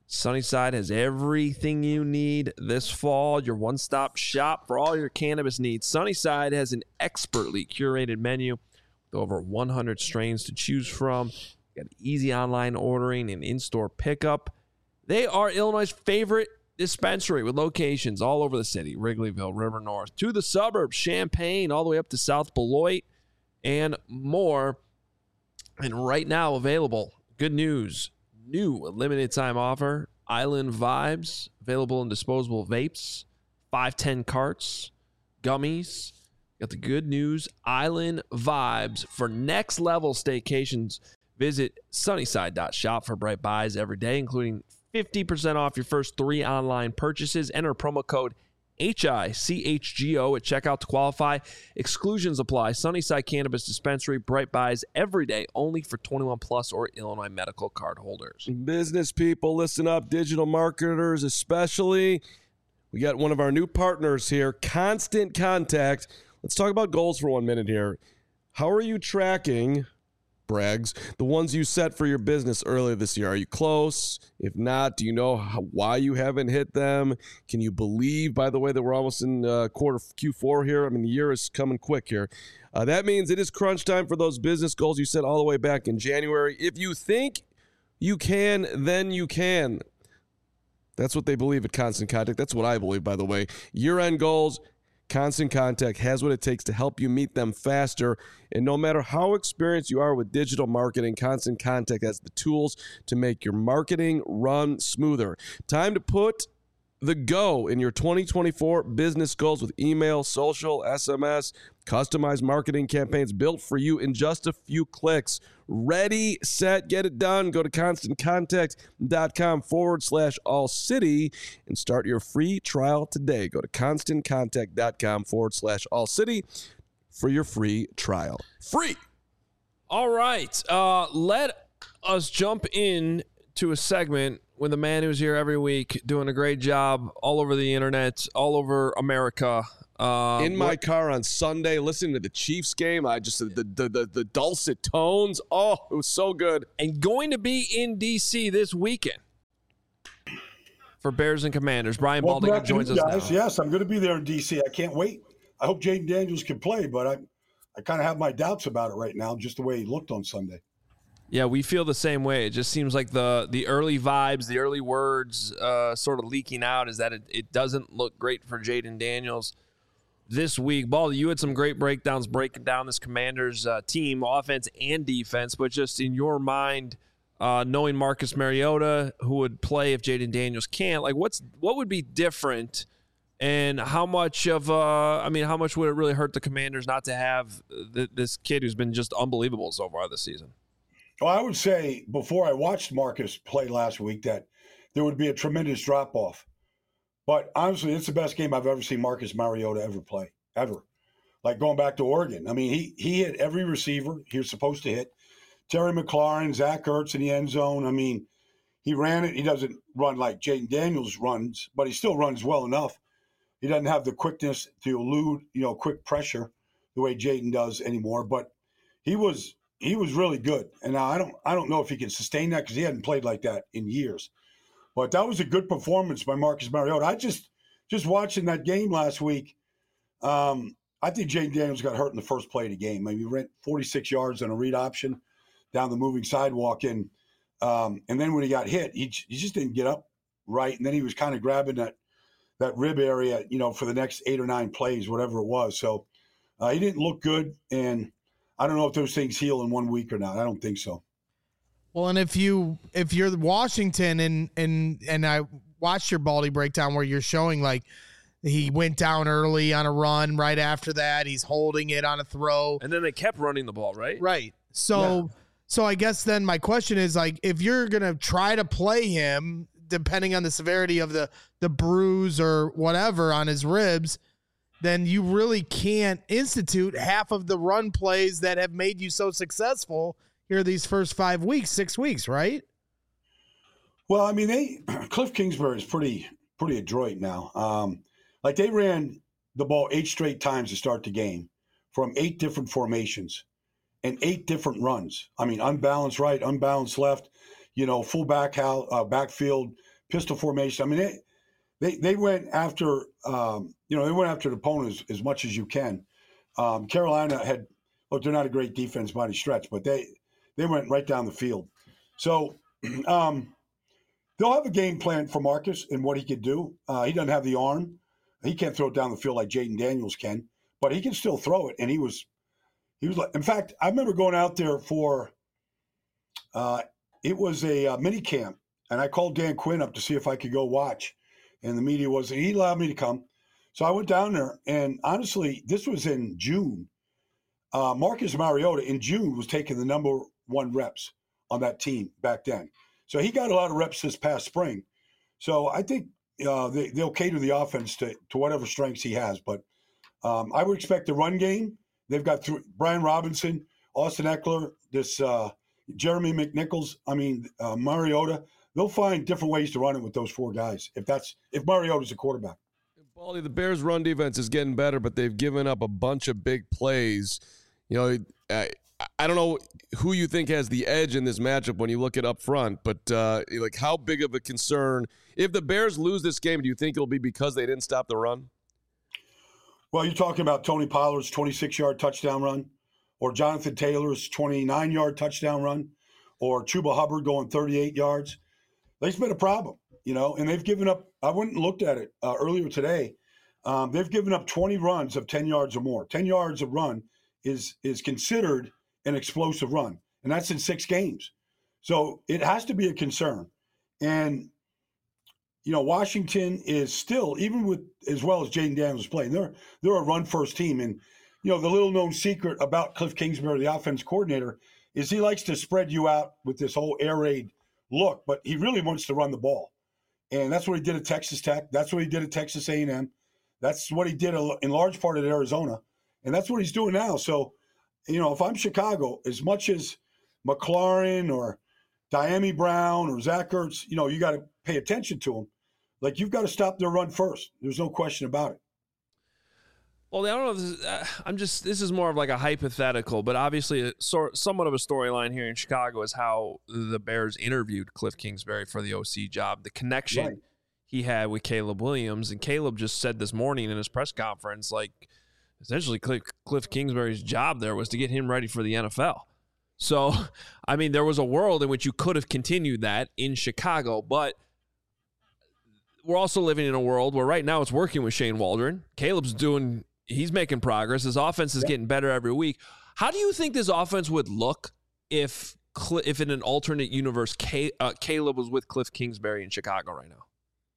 Sunnyside has everything you need this fall. Your one-stop shop for all your cannabis needs. Sunnyside has an expertly curated menu with over 100 strains to choose from. You got easy online ordering and in-store pickup. They are Illinois' favorite dispensary with locations all over the city. Wrigleyville, River North, to the suburbs, Champaign, all the way up to South Beloit, and more. And right now available, good news, new limited time offer, Island Vibes, available in disposable vapes, 510 carts, gummies. Got the good news, Island Vibes for next level staycations. Visit sunnyside.shop for bright buys every day, including 50% off your first 3 online purchases. Enter promo code HICHGO at checkout to qualify. Exclusions apply. Sunnyside Cannabis Dispensary. Bright buys every day, only for 21 plus or Illinois medical card holders. Business people, listen up. Digital marketers especially. We got one of our new partners here, Constant Contact. Let's talk about goals for 1 minute here. How are you tracking, Braggs, the ones you set for your business earlier this year? Are you close? If not, do you know why you haven't hit them? Can you believe, by the way, that we're almost in quarter Q4 here? I mean, the year is coming quick here. That means it is crunch time for those business goals you set all the way back in January. If you think you can, then you can. That's what they believe at Constant Contact. That's what I believe, by the way. Year-end goals, Constant Contact has what it takes to help you meet them faster. And no matter how experienced you are with digital marketing, Constant Contact has the tools to make your marketing run smoother. Time to put the go in your 2024 business goals with email, social, SMS, customized marketing campaigns built for you in just a few clicks. Ready, set, get it done. Go to ConstantContact.com/all-city and start your free trial today. Go to ConstantContact.com/all-city for your free trial. Free! All right. Let us jump in to a segment with a man who's here every week doing a great job all over the internet, all over America. In my car on Sunday, listening to the Chiefs game, I just the dulcet tones. Oh, it was so good. And going to be in D.C. this weekend for Bears and Commanders. Brian Baldinger joins us now. Yes, I'm going to be there in D.C. I can't wait. I hope Jayden Daniels can play, but I kind of have my doubts about it right now, just the way he looked on Sunday. Yeah, we feel the same way. It just seems like the early vibes, the early words sort of leaking out is that it doesn't look great for Jayden Daniels this week. Baldy, you had some great breakdowns breaking down this Commanders team, offense and defense, but just in your mind, knowing Marcus Mariota, who would play if Jayden Daniels can't, like what would be different, and how much would it really hurt the Commanders not to have this kid who's been just unbelievable so far this season? Well, I would say before I watched Marcus play last week that there would be a tremendous drop-off. But honestly, it's the best game I've ever seen Marcus Mariota ever play, ever. Like going back to Oregon. I mean, he hit every receiver he was supposed to hit. Terry McLaurin, Zach Ertz in the end zone. I mean, he ran it. He doesn't run like Jayden Daniels runs, but he still runs well enough. He doesn't have the quickness to elude, quick pressure the way Jayden does anymore. But he was really good. And now I don't know if he can sustain that because he hadn't played like that in years. But that was a good performance by Marcus Mariota. I just watching that game last week, I think Jayden Daniels got hurt in the first play of the game. Maybe he ran 46 yards on a read option down the moving sidewalk. And then when he got hit, he just didn't get up right. And then he was kind of grabbing that rib area, for the next 8 or 9 plays, whatever it was. So he didn't look good. And I don't know if those things heal in 1 week or not. I don't think so. Well, and if you're Washington and I watched your Baldy breakdown where you're showing like he went down early on a run right after that, he's holding it on a throw. And then they kept running the ball, right? Right. So I guess then my question is like if you're going to try to play him depending on the severity of the bruise or whatever on his ribs, then you really can't institute half of the run plays that have made you so successful here these first 6 weeks, right? Well, I mean, Cliff Kingsbury is pretty adroit now. Like they ran the ball 8 straight times to start the game from 8 different formations and 8 different runs. I mean, unbalanced right, unbalanced left, full backfield pistol formation. I mean, they went after they went after the opponent as much as you can. Carolina had they're not a great defense by any stretch, but they went right down the field. So they'll have a game plan for Marcus and what he could do. He doesn't have the arm. He can't throw it down the field like Jaden Daniels can, but he can still throw it. And he was like, in fact, I remember going out there for it was a mini camp, and I called Dan Quinn up to see if I could go watch. And the media he allowed me to come. So I went down there, and honestly, this was in June. Marcus Mariota in June was taking the number 1 reps on that team back then. So he got a lot of reps this past spring. So I think they'll cater the offense to whatever strengths he has. But I would expect the run game. They've got Brian Robinson, Austin Eckler, this Jeremy McNichols. Mariota. They'll find different ways to run it with those 4 guys if Mariota's a quarterback. Baldy, the Bears' run defense is getting better, but they've given up a bunch of big plays. I don't know who you think has the edge in this matchup when you look at up front, but how big of a concern if the Bears lose this game? Do you think it'll be because they didn't stop the run? Well, you're talking about Tony Pollard's 26-yard touchdown run, or Jonathan Taylor's 29-yard touchdown run, or Chuba Hubbard going 38 yards. They've been a problem, and they've given up. I went and looked at it earlier today. They've given up 20 runs of 10 yards or more. 10 yards of run is considered an explosive run, and that's in 6 games. So it has to be a concern. And, Washington is still, even with as well as Jaden Daniels is playing, they're a run-first team. And, the little-known secret about Cliff Kingsbury, the offense coordinator, is he likes to spread you out with this whole air raid look, but he really wants to run the ball. And that's what he did at Texas Tech. That's what he did at Texas A&M. That's what he did in large part at Arizona. And that's what he's doing now. So, if I'm Chicago, as much as McLaurin or Diami Brown or Zach Ertz, you got to pay attention to them. Like, you've got to stop their run first. There's no question about it. Well, I don't know if this is more of like a hypothetical, but obviously somewhat of a storyline here in Chicago is how the Bears interviewed Cliff Kingsbury for the OC job, the connection he had with Caleb Williams. And Caleb just said this morning in his press conference, essentially Cliff Kingsbury's job there was to get him ready for the NFL. So, there was a world in which you could have continued that in Chicago, but we're also living in a world where right now it's working with Shane Waldron. He's making progress. His offense is getting better every week. How do you think this offense would look if in an alternate universe, Caleb was with Cliff Kingsbury in Chicago right now?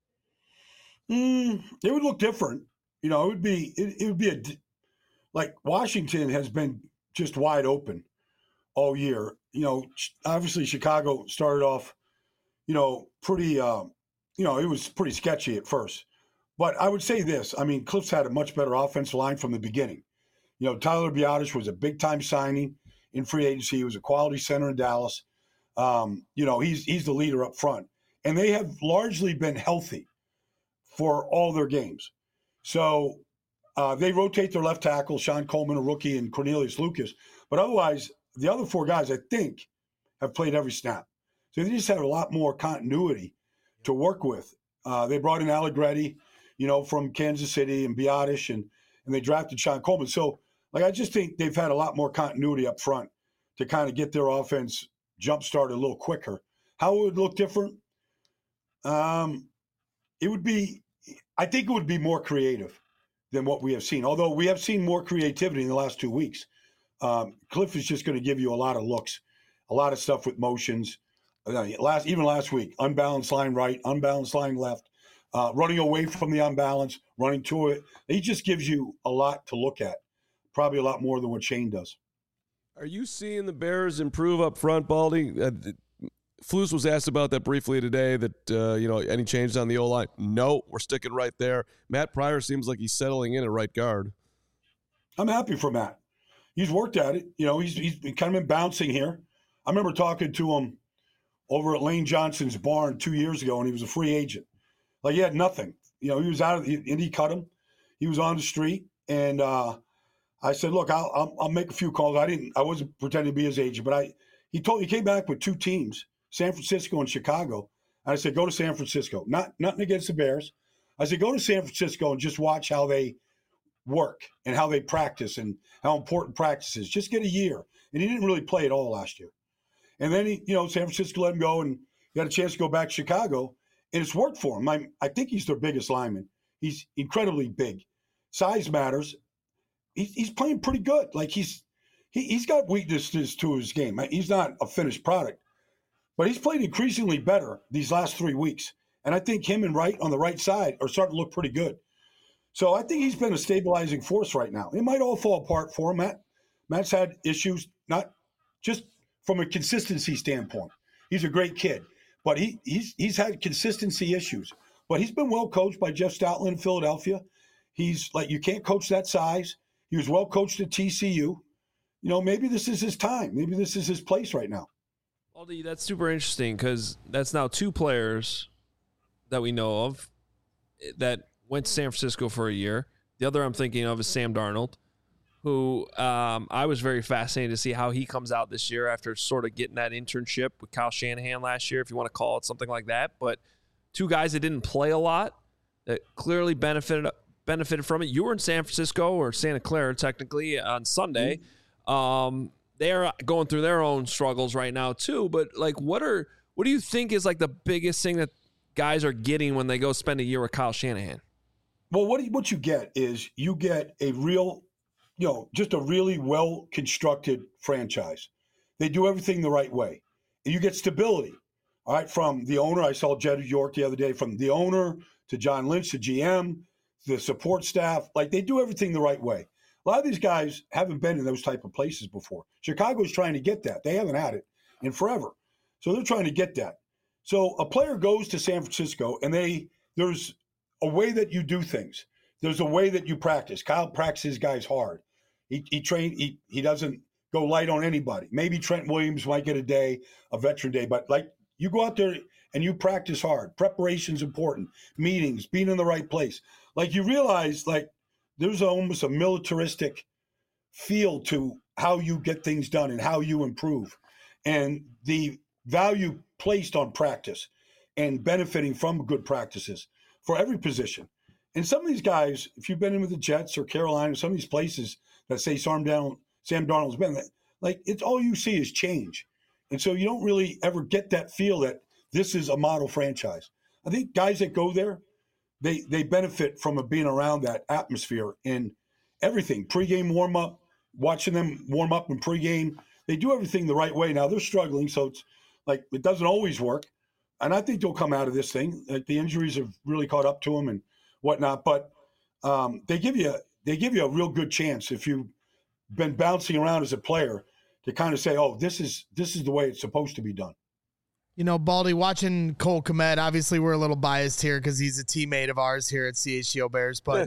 It would look different. It would be like Washington has been just wide open all year. Obviously Chicago started off, pretty, it was pretty sketchy at first. But I would say this. Cliff's had a much better offensive line from the beginning. Tyler Biadasz was a big-time signing in free agency. He was a quality center in Dallas. He's the leader up front. And they have largely been healthy for all their games. So they rotate their left tackle, Sean Coleman, a rookie, and Cornelius Lucas. But otherwise, the other 4 guys, I think, have played every snap. So they just have a lot more continuity to work with. They brought in Allegretti, from Kansas City, and Biadasz, and they drafted Sean Coleman. So, I just think they've had a lot more continuity up front to kind of get their offense jump-started a little quicker. How it would look different? I think it would be more creative than what we have seen, although we have seen more creativity in the last 2 weeks. Cliff is just going to give you a lot of looks, a lot of stuff with motions. Even last week, unbalanced line right, unbalanced line left, running away from the unbalance, running to it. He just gives you a lot to look at, probably a lot more than what Shane does. Are you seeing the Bears improve up front, Baldy? Flus was asked about that briefly today, that, any changes on the O-line? No, we're sticking right there. Matt Pryor seems like he's settling in at right guard. I'm happy for Matt. He's worked at it. He's kind of been bouncing here. I remember talking to him over at Lane Johnson's barn 2 years ago, and he was a free agent. He had nothing. He was out of the – and he cut him. He was on the street, and I said, look, I'll make a few calls. I wasn't pretending to be his agent, but he came back with 2 teams, San Francisco and Chicago. And I said, go to San Francisco. Nothing against the Bears. I said, go to San Francisco and just watch how they work and how they practice and how important practice is. Just get a year. And he didn't really play at all last year. And then San Francisco let him go, and he got a chance to go back to Chicago, and it's worked for him. I think he's their biggest lineman. He's incredibly big. Size matters. He's playing pretty good. Like he's got weaknesses to his game. He's not a finished product, but he's played increasingly better these last 3 weeks. And I think him and Wright on the right side are starting to look pretty good. So I think he's been a stabilizing force right now. It might all fall apart for him. Matt's had issues, not just from a consistency standpoint. He's a great kid, but he's had consistency issues. But he's been well coached by Jeff Stoutland in Philadelphia. He's like, you can't coach that size. He was well coached at TCU. Maybe this is his time. Maybe this is his place right now. Aldi, that's super interesting because that's now 2 players that we know of that went to San Francisco for a year. The other I'm thinking of is Sam Darnold, who I was very fascinated to see how he comes out this year after sort of getting that internship with Kyle Shanahan last year, if you want to call it something like that. But 2 guys that didn't play a lot that clearly benefited from it. You were in San Francisco or Santa Clara technically on Sunday. They're going through their own struggles right now too. But like, what do you think is like the biggest thing that guys are getting when they go spend a year with Kyle Shanahan? Well, what you get is you get a real, just a really well-constructed franchise. They do everything the right way. And you get stability, all right, from the owner. I saw Jed York the other day, from the owner to John Lynch, the GM, the support staff. Like, they do everything the right way. A lot of these guys haven't been in those type of places before. Chicago's trying to get that. They haven't had it in forever. So they're trying to get that. So a player goes to San Francisco, and there's a way that you do things. There's a way that you practice. Kyle practices guys hard. He doesn't go light on anybody. Maybe Trent Williams might get a veteran day, but like, you go out there and you practice hard. Preparation's important. Meetings, being in the right place. Like, you realize, like, there's almost a militaristic feel to how you get things done and how you improve. And the value placed on practice and benefiting from good practices for every position. And some of these guys, if you've been in with the Jets or Carolina, some of these places that say Sam Darnold's been, like, it's all you see is change. And so you don't really ever get that feel that this is a model franchise. I think guys that go there, they benefit from being around that atmosphere and everything. Pre-game warm-up, watching them warm up in pregame. They do everything the right way. Now they're struggling, so it's like it doesn't always work. And I think they'll come out of this thing. Like the injuries have really caught up to them and whatnot. But they give you a real good chance if you've been bouncing around as a player to kind of say, oh, this is the way it's supposed to be done. You know, Baldy, watching Cole Kmet, obviously we're a little biased here because he's a teammate of ours here at CHGO Bears. But,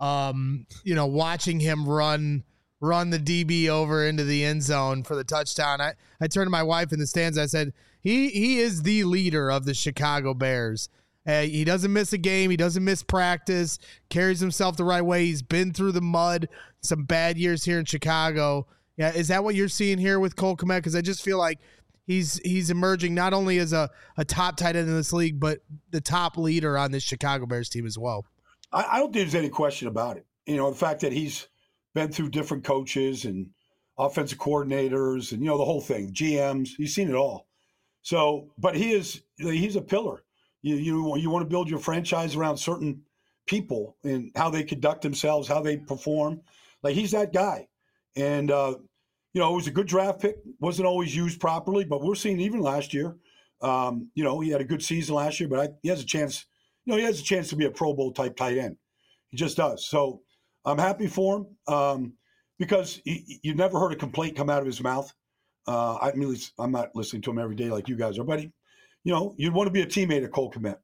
you know, watching him run the DB over into the end zone for the touchdown, I turned to my wife in the stands. I said, he is the leader of the Chicago Bears. He doesn't miss a game. He doesn't miss practice, carries himself the right way. He's been through the mud, some bad years here in Chicago. Yeah, is that what you're seeing here with Cole Kmet? Because I just feel like he's emerging not only as a top tight end in this league, but the top leader on this Chicago Bears team as well. I don't think there's any question about it. You know, the fact that he's been through different coaches and offensive coordinators and, you know, the whole thing, GMs, he's seen it all. So, but he's a pillar. You want to build your franchise around certain people and how they conduct themselves, how they perform. Like, he's that guy. And, you know, it was a good draft pick. Wasn't always used properly, but we're seeing even last year. You know, he had a good season last year, but he has a chance. You know, he has a chance to be a Pro Bowl type tight end. He just does. So I'm happy for him because you never heard a complaint come out of his mouth. I mean, I'm not listening to him every day like you guys are, but you know, you'd want to be a teammate of Cole Kmet.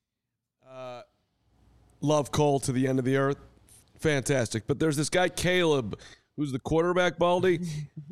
Love Cole to the end of the earth. Fantastic. But there's this guy, Caleb, who's the quarterback, Baldy,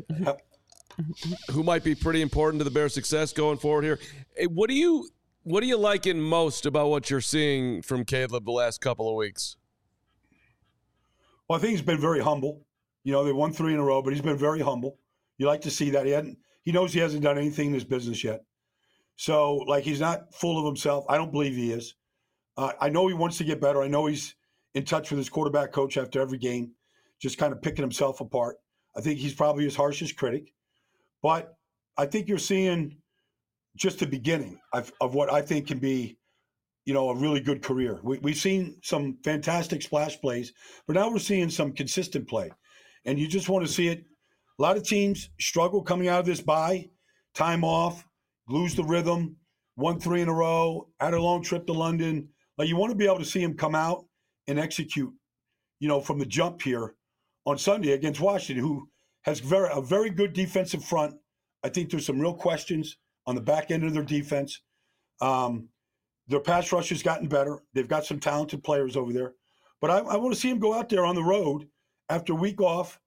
who might be pretty important to the Bears' success going forward here. Hey, what do you liking most about what you're seeing from Caleb the last couple of weeks? Well, I think he's been very humble. You know, they won 3 in a row, but he's been very humble. You like to see that. He knows he hasn't done anything in his business yet. So, like, he's not full of himself. I don't believe he is. I know he wants to get better. I know he's in touch with his quarterback coach after every game, just kind of picking himself apart. I think he's probably his harshest critic. But I think you're seeing just the beginning of what I think can be, a really good career. We've seen some fantastic splash plays, but now we're seeing some consistent play. And you just want to see it. A lot of teams struggle coming out of this bye, time off, lose the rhythm, 1-3 in a row, had a long trip to London. Like, you want to be able to see him come out and execute, from the jump here on Sunday against Washington, who has a very good defensive front. I think there's some real questions on the back end of their defense. Their pass rush has gotten better. They've got some talented players over there. But I want to see him go out there on the road after a week off,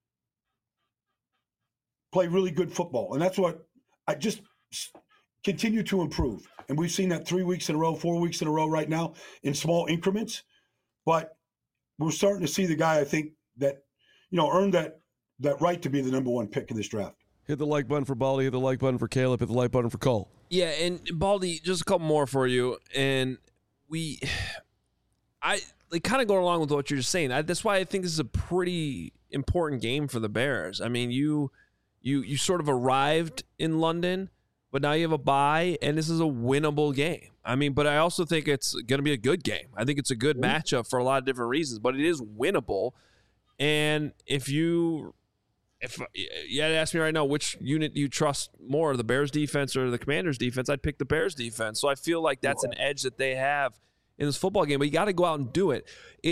play really good football. And that's what I just continue to improve. And we've seen that 3 weeks in a row, 4 weeks in a row right now in small increments. But we're starting to see the guy, I think, that, earned that right to be the number one pick in this draft. Hit the like button for Baldy, hit the like button for Caleb, hit the like button for Cole. Yeah, and Baldy, just a couple more for you. And I kind of go along with what you're just saying. That's why I think this is a pretty important game for the Bears. I mean, you sort of arrived in London, but now you have a bye, and this is a winnable game. I mean, but I also think it's going to be a good game. I think it's a good matchup for a lot of different reasons, but it is winnable. And if you had asked me right now which unit you trust more, the Bears defense or the Commanders defense, I'd pick the Bears defense. So I feel like that's an edge that they have in this football game, but you got to go out and do it.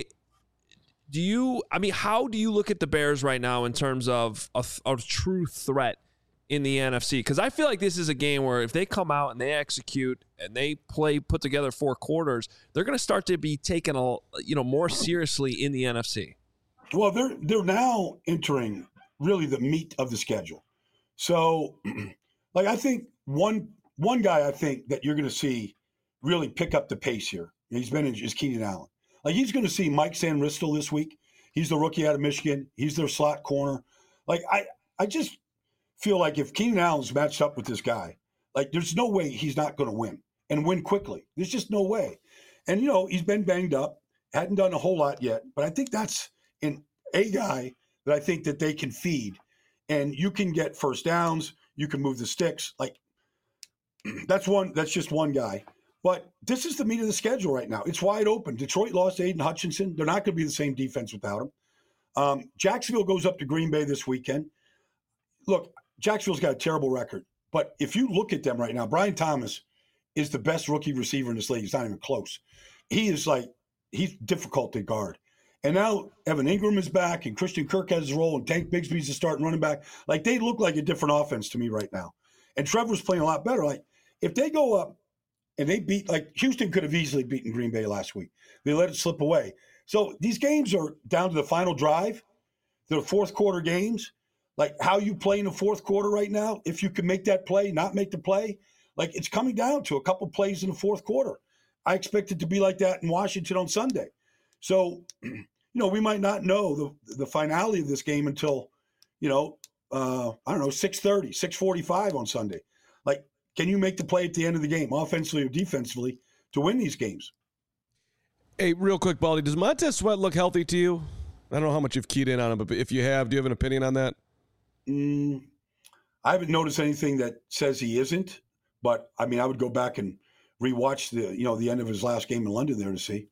How do you look at the Bears right now in terms of a true threat in the NFC? Because I feel like this is a game where if they come out and they execute and they put together 4 quarters, they're going to start to be taken more seriously in the NFC. Well, they're now entering really the meat of the schedule. So, like, I think one guy I think that you're going to see really pick up the pace here, is Keenan Allen. Like, he's going to see Mike Sanristel this week. He's the rookie out of Michigan. He's their slot corner. Like, I just feel like if Keenan Allen's matched up with this guy, like, there's no way he's not going to win and win quickly. There's just no way. And, he's been banged up, hadn't done a whole lot yet, but I think that's a guy that I think that they can feed. And you can get first downs. You can move the sticks. Like, that's just one guy. But this is the meat of the schedule right now. It's wide open. Detroit lost Aiden Hutchinson. They're not going to be the same defense without him. Jacksonville goes up to Green Bay this weekend. Look, Jacksonville's got a terrible record. But if you look at them right now, Brian Thomas is the best rookie receiver in this league. He's not even close. He's difficult to guard. And now Evan Ingram is back, and Christian Kirk has his role, and Tank Bigsby's the starting running back. Like, they look like a different offense to me right now. And Trevor's playing a lot better. Like, if they go up and they beat, like, Houston could have easily beaten Green Bay last week. They let it slip away. So these games are down to the final drive. They're fourth quarter games. Like, how you play in the fourth quarter right now, if you can make that play, not make the play, like, it's coming down to a couple plays in the fourth quarter. I expect it to be like that in Washington on Sunday. So, we might not know the finality of this game until, 6:30, 6:45 on Sunday. Like, can you make the play at the end of the game, offensively or defensively, to win these games? Hey, real quick, Baldy, does Montez Sweat look healthy to you? I don't know how much you've keyed in on him, but if you have, do you have an opinion on that? I haven't noticed anything that says he isn't, but I would go back and rewatch the end of his last game in London there to see.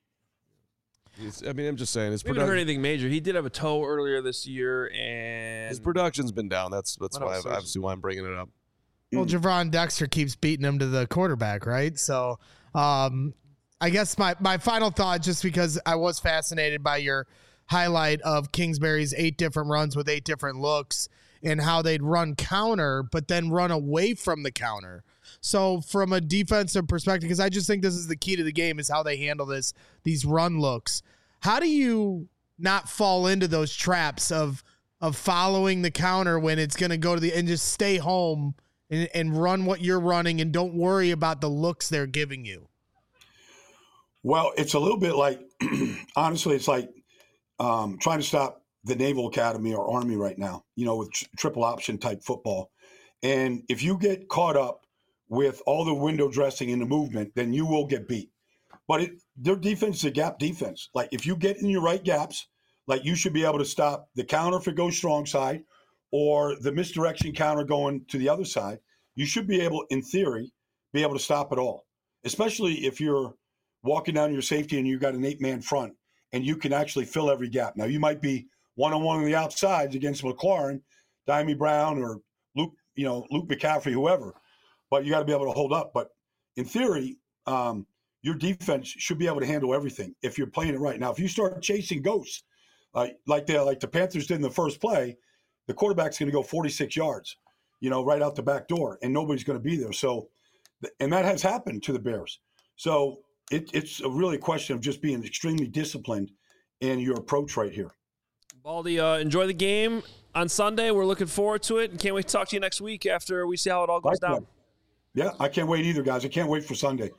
I'm just saying. We haven't heard anything major. He did have a toe earlier this year, and his production's been down. That's why I'm bringing it up. Well, Javon Dexter keeps beating him to the quarterback, right? So, I guess my final thought, just because I was fascinated by your highlight of Kingsbury's 8 different runs with 8 different looks and how they'd run counter, but then run away from the counter. So from a defensive perspective, because I just think this is the key to the game, is how they handle these run looks. How do you not fall into those traps of following the counter when it's going to go to and just stay home and run what you're running and don't worry about the looks they're giving you? Well, it's a little bit like, honestly, it's like trying to stop the Naval Academy or Army right now, with triple option type football. And if you get caught up with all the window dressing and the movement, then you will get beat. But their defense is a gap defense. Like if you get in your right gaps, like you should be able to stop the counter if it goes strong side or the misdirection counter going to the other side. You should be able, in theory, be able to stop it all, especially if you're walking down your safety and you've got an 8-man front and you can actually fill every gap. Now, you might be one-on-one on the outsides against McLaurin, Dimey Brown, or Luke McCaffrey, whoever, but you got to be able to hold up. But in theory, your defense should be able to handle everything if you're playing it right. Now, if you start chasing ghosts, like the Panthers did in the first play, the quarterback's going to go 46 yards, right out the back door, and nobody's going to be there. So, and that has happened to the Bears. So it's a really question of just being extremely disciplined in your approach right here. Baldy, enjoy the game on Sunday. We're looking forward to it and can't wait to talk to you next week after we see how it all goes down. Yeah, I can't wait either, guys. I can't wait for Sunday.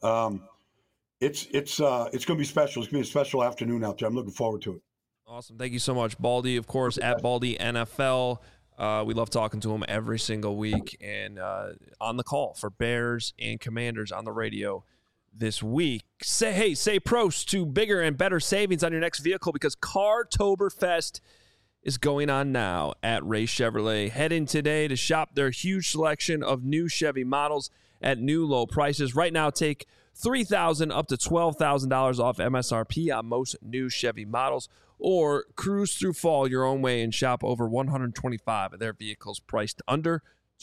It's going to be special. It's going to be a special afternoon out there. I'm looking forward to it. Awesome. Thank you so much, Baldy, of course, at Baldy NFL. We love talking to him every single week and on the call for Bears and Commanders on the radio this week. Say prost to bigger and better savings on your next vehicle because Cartoberfest is going on now at Ray Chevrolet. Head in today to shop their huge selection of new Chevy models at new low prices. Right now, take $3,000 up to $12,000 off MSRP on most new Chevy models, or cruise through fall your own way and shop over 125 of their vehicles priced under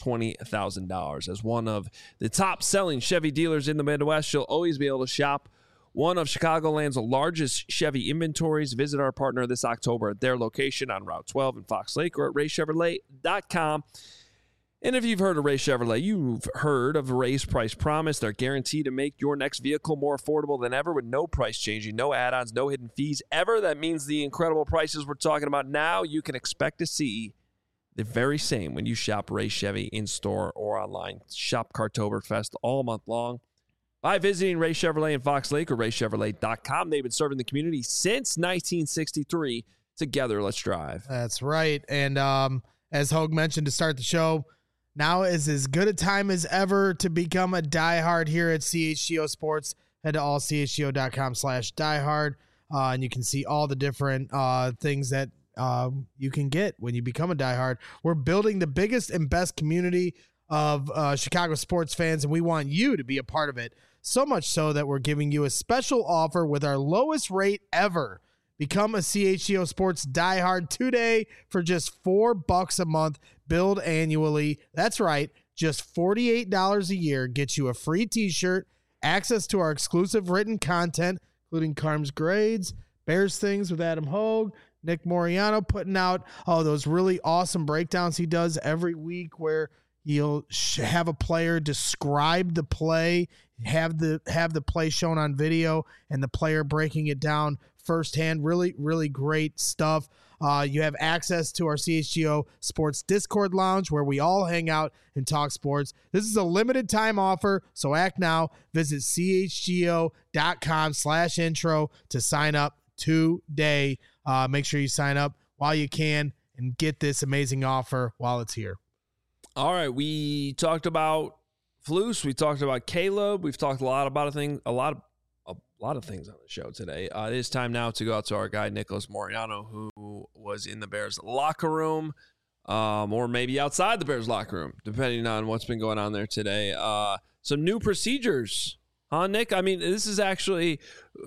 $20,000. As one of the top-selling Chevy dealers in the Midwest, you'll always be able to shop one of Chicagoland's largest Chevy inventories. Visit our partner this October at their location on Route 12 in Fox Lake or at raychevrolet.com. And if you've heard of Ray Chevrolet, you've heard of Ray's Price Promise. They're guaranteed to make your next vehicle more affordable than ever with no price changing, no add-ons, no hidden fees ever. That means the incredible prices we're talking about now, you can expect to see the very same when you shop Ray Chevy in-store or online. Shop Cartoberfest all month long by visiting Ray Chevrolet in Fox Lake or raychevrolet.com. They've been serving the community since 1963. Together, let's drive. That's right. And as Hogue mentioned to start the show, now is as good a time as ever to become a diehard here at CHGO Sports. Head to allchgo.com/diehard, and you can see all the different things that you can get when you become a diehard. We're building the biggest and best community of Chicago sports fans, and we want you to be a part of it. So much so that we're giving you a special offer with our lowest rate ever. Become a CHGO Sports diehard today for just $4 a month, billed annually. That's right, just $48 a year gets you a free t-shirt, access to our exclusive written content, including Carm's Grades, Bears Things with Adam Hogue, Nick Moriano putting out those really awesome breakdowns he does every week where he'll have a player describe the play, have the play shown on video, and the player breaking it down firsthand. Really, really great stuff. You have access to our CHGO Sports Discord Lounge where we all hang out and talk sports. This is a limited time offer, so act now. Visit chgo.com/intro to sign up today. Make sure you sign up while you can and get this amazing offer while it's here. All right, we talked about Flus. We talked about Caleb. We've talked a lot of things on the show today. It is time now to go out to our guy, Nicholas Moriano, who was in the Bears locker room, or maybe outside the Bears locker room, depending on what's been going on there today. Some new procedures, huh, Nick? I mean, this is actually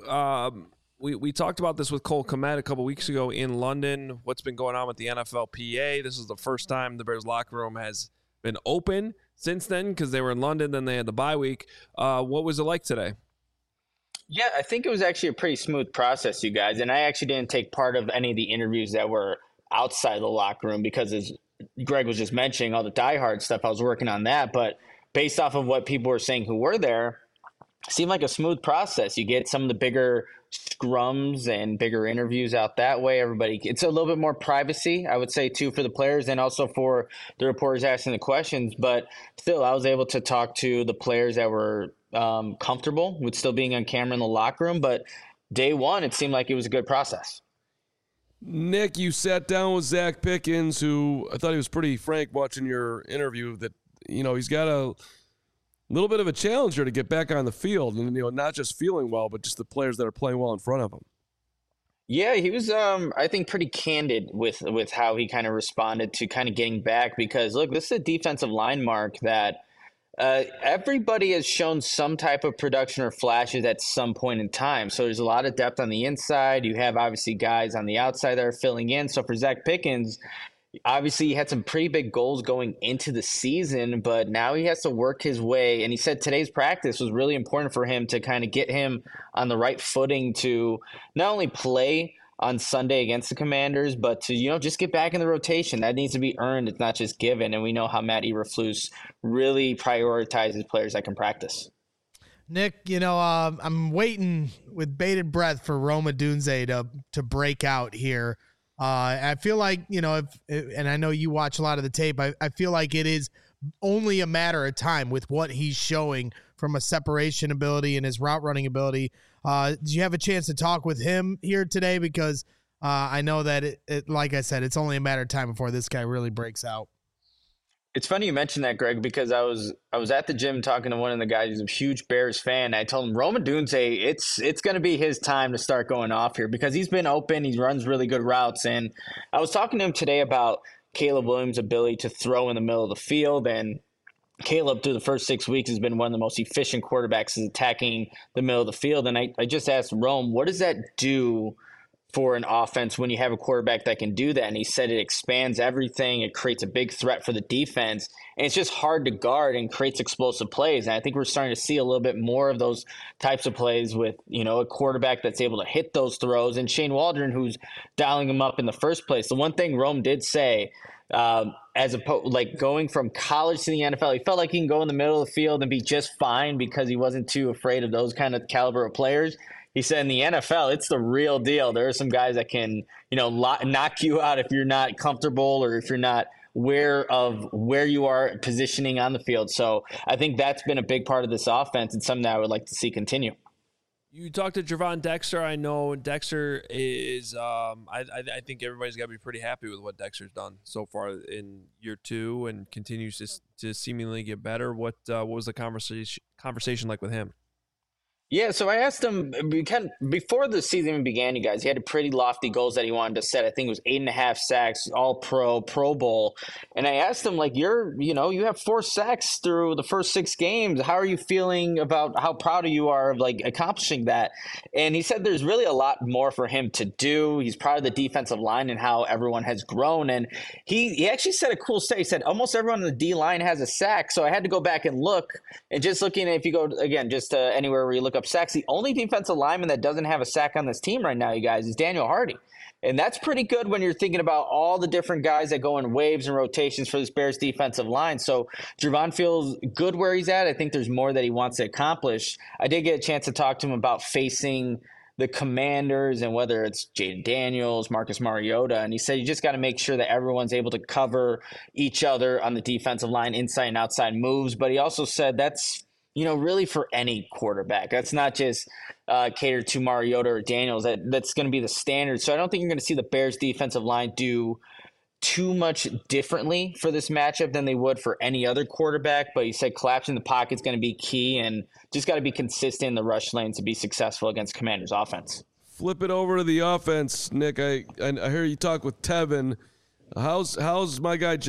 we talked about this with Cole Kmet a couple weeks ago in London, what's been going on with the NFLPA. This is the first time the Bears locker room has been open since then because they were in London, then they had the bye week. What was it like today? Yeah, I think it was actually a pretty smooth process, you guys. And I actually didn't take part of any of the interviews that were outside the locker room because, as Greg was just mentioning, all the diehard stuff, I was working on that. But based off of what people were saying who were there, it seemed like a smooth process. You get some of the bigger scrums and bigger interviews out that way. It's a little bit more privacy, I would say, too, for the players and also for the reporters asking the questions. But still, I was able to talk to the players that were comfortable with still being on camera in the locker room. But day one, it seemed like it was a good process. Nick, you sat down with Zach Pickens, who I thought he was pretty frank watching your interview that, he's got little bit of a challenger to get back on the field, and not just feeling well, but just the players that are playing well in front of him. Yeah, he was, I think, pretty candid with how he kind of responded to kind of getting back because, look, this is a defensive line, Mark, that everybody has shown some type of production or flashes at some point in time. So there's a lot of depth on the inside. You have, obviously, guys on the outside that are filling in. So for Zach Pickens, obviously, he had some pretty big goals going into the season, but now he has to work his way. And he said today's practice was really important for him to kind of get him on the right footing to not only play on Sunday against the Commanders, but to, just get back in the rotation. That needs to be earned. It's not just given. And we know how Matt Eberflus really prioritizes players that can practice. Nick, I'm waiting with bated breath for Rome Odunze to break out here. I feel like, and I know you watch a lot of the tape, I feel like it is only a matter of time with what he's showing from a separation ability and his route running ability. Did you have a chance to talk with him here today? Because I know that, like I said, it's only a matter of time before this guy really breaks out. It's funny you mentioned that, Greg, because I was at the gym talking to one of the guys who's a huge Bears fan. I told him, Rome Odunze, it's going to be his time to start going off here because he's been open. He runs really good routes. And I was talking to him today about Caleb Williams' ability to throw in the middle of the field. And Caleb, through the first 6 weeks, has been one of the most efficient quarterbacks attacking the middle of the field. And I just asked Rome, what does that do for an offense when you have a quarterback that can do that? And he said it expands everything. It creates a big threat for the defense. And it's just hard to guard and creates explosive plays. And I think we're starting to see a little bit more of those types of plays with, a quarterback that's able to hit those throws. And Shane Waldron, who's dialing them up in the first place. The one thing Rome did say, going from college to the NFL, he felt like he can go in the middle of the field and be just fine because he wasn't too afraid of those kind of caliber of players. He said in the NFL, it's the real deal. There are some guys that can, knock you out if you're not comfortable or if you're not aware of where you are positioning on the field. So I think that's been a big part of this offense and something that I would like to see continue. You talked to Gervon Dexter. I know Dexter is I think everybody's got to be pretty happy with what Dexter's done so far in year 2 and continues to seemingly get better. What was the conversation like with him? Yeah, so I asked him before the season even began, you guys, he had pretty lofty goals that he wanted to set. I think it was 8.5 sacks, all Pro Bowl. And I asked him, you have 4 sacks through the first 6 games. How are you feeling about how proud you are of accomplishing that? And he said there's really a lot more for him to do. He's proud of the defensive line and how everyone has grown. And he actually said a cool stat. He said almost everyone on the D line has a sack. So I had to go back and look. And just looking at, if you go, again, just anywhere where you look up sacks, the only defensive lineman that doesn't have a sack on this team right now, you guys, is Daniel Hardy. And that's pretty good when you're thinking about all the different guys that go in waves and rotations for this Bears defensive line. So Gervon feels good where he's at. I think there's more that he wants to accomplish. I did get a chance to talk to him about facing the Commanders and whether it's Jaden Daniels, Marcus Mariota. And he said you just got to make sure that everyone's able to cover each other on the defensive line, inside and outside moves. But he also said that's really for any quarterback. That's not just catered to Mariota or Daniels. That's going to be the standard. So I don't think you're going to see the Bears defensive line do too much differently for this matchup than they would for any other quarterback. But he said collapsing the pocket is going to be key and just got to be consistent in the rush lane to be successful against Commanders offense. Flip it over to the offense, Nick. I hear you talk with Tevin. How's my guy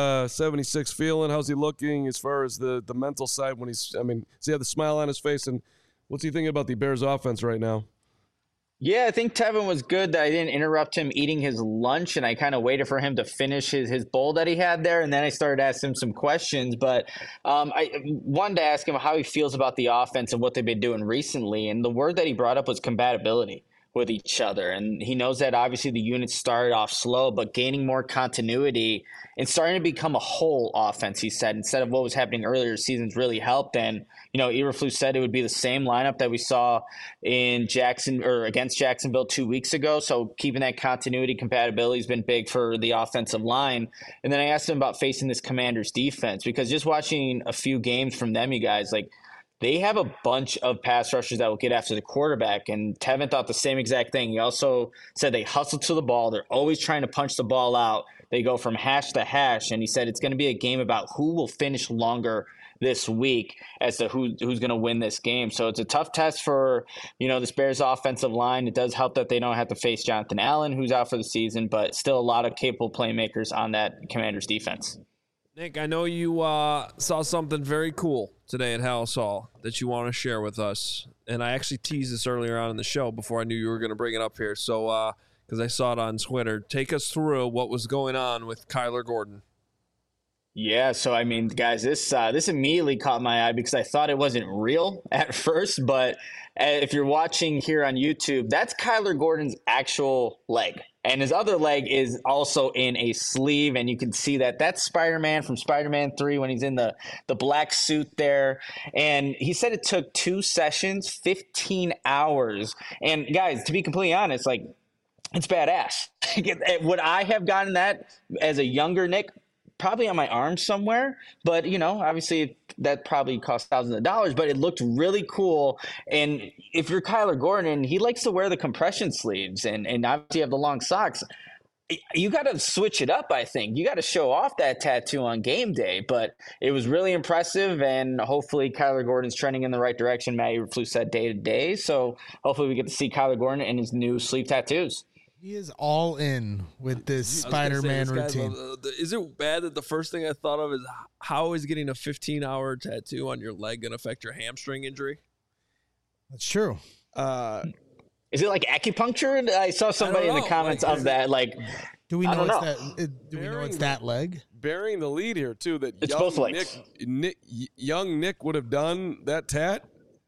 76 feeling? How's he looking as far as the mental side when does he have the smile on his face, and what's he thinking about the Bears offense right now? Yeah, I think Tevin was good that I didn't interrupt him eating his lunch, and I kind of waited for him to finish his bowl that he had there, and then I started asking him some questions. But I wanted to ask him how he feels about the offense and what they've been doing recently, and the word that he brought up was compatibility with each other. And he knows that obviously the units started off slow, but gaining more continuity and starting to become a whole offense, he said, instead of what was happening earlier seasons really helped. And, Eberflus said it would be the same lineup that we saw in against Jacksonville 2 weeks ago. So keeping that continuity, compatibility has been big for the offensive line. And then I asked him about facing this Commanders defense, because just watching a few games from them, you guys, they have a bunch of pass rushers that will get after the quarterback, and Tevin thought the same exact thing. He also said they hustle to the ball. They're always trying to punch the ball out. They go from hash to hash, and he said it's going to be a game about who will finish longer this week as to who's going to win this game. So it's a tough test for, this Bears offensive line. It does help that they don't have to face Jonathan Allen, who's out for the season, but still a lot of capable playmakers on that Commanders defense. Nick, I know you saw something very cool today at Halas Hall that you want to share with us. And I actually teased this earlier on in the show before I knew you were going to bring it up here. So, because I saw it on Twitter, take us through what was going on with Kyler Gordon. Yeah, so I mean, guys, this immediately caught my eye because I thought it wasn't real at first, but if you're watching here on YouTube, that's Kyler Gordon's actual leg. And his other leg is also in a sleeve, and you can see that that's Spider-Man from Spider-Man 3 when he's in the black suit there. And he said it took 2 sessions, 15 hours. And guys, to be completely honest, like, it's badass. Would I have gotten that as a younger Nick? Probably on my arm somewhere, but obviously that probably cost thousands of dollars, but it looked really cool. And if you're Kyler Gordon, he likes to wear the compression sleeves and obviously have the long socks. You got to switch it up. I think you got to show off that tattoo on game day, but it was really impressive. And hopefully Kyler Gordon's trending in the right direction. Matt Eberflus said day to day. So hopefully we get to see Kyler Gordon and his new sleeve tattoos. He is all in with this Spider-Man routine. Is it bad that the first thing I thought of is how is getting a 15-hour tattoo on your leg going to affect your hamstring injury? That's true. Is it like acupuncture? I saw somebody in the comments of that. Like, do we know know. Do we know it's that leg? Bearing the lead here too. That it's both legs. Young Nick would have done that tat.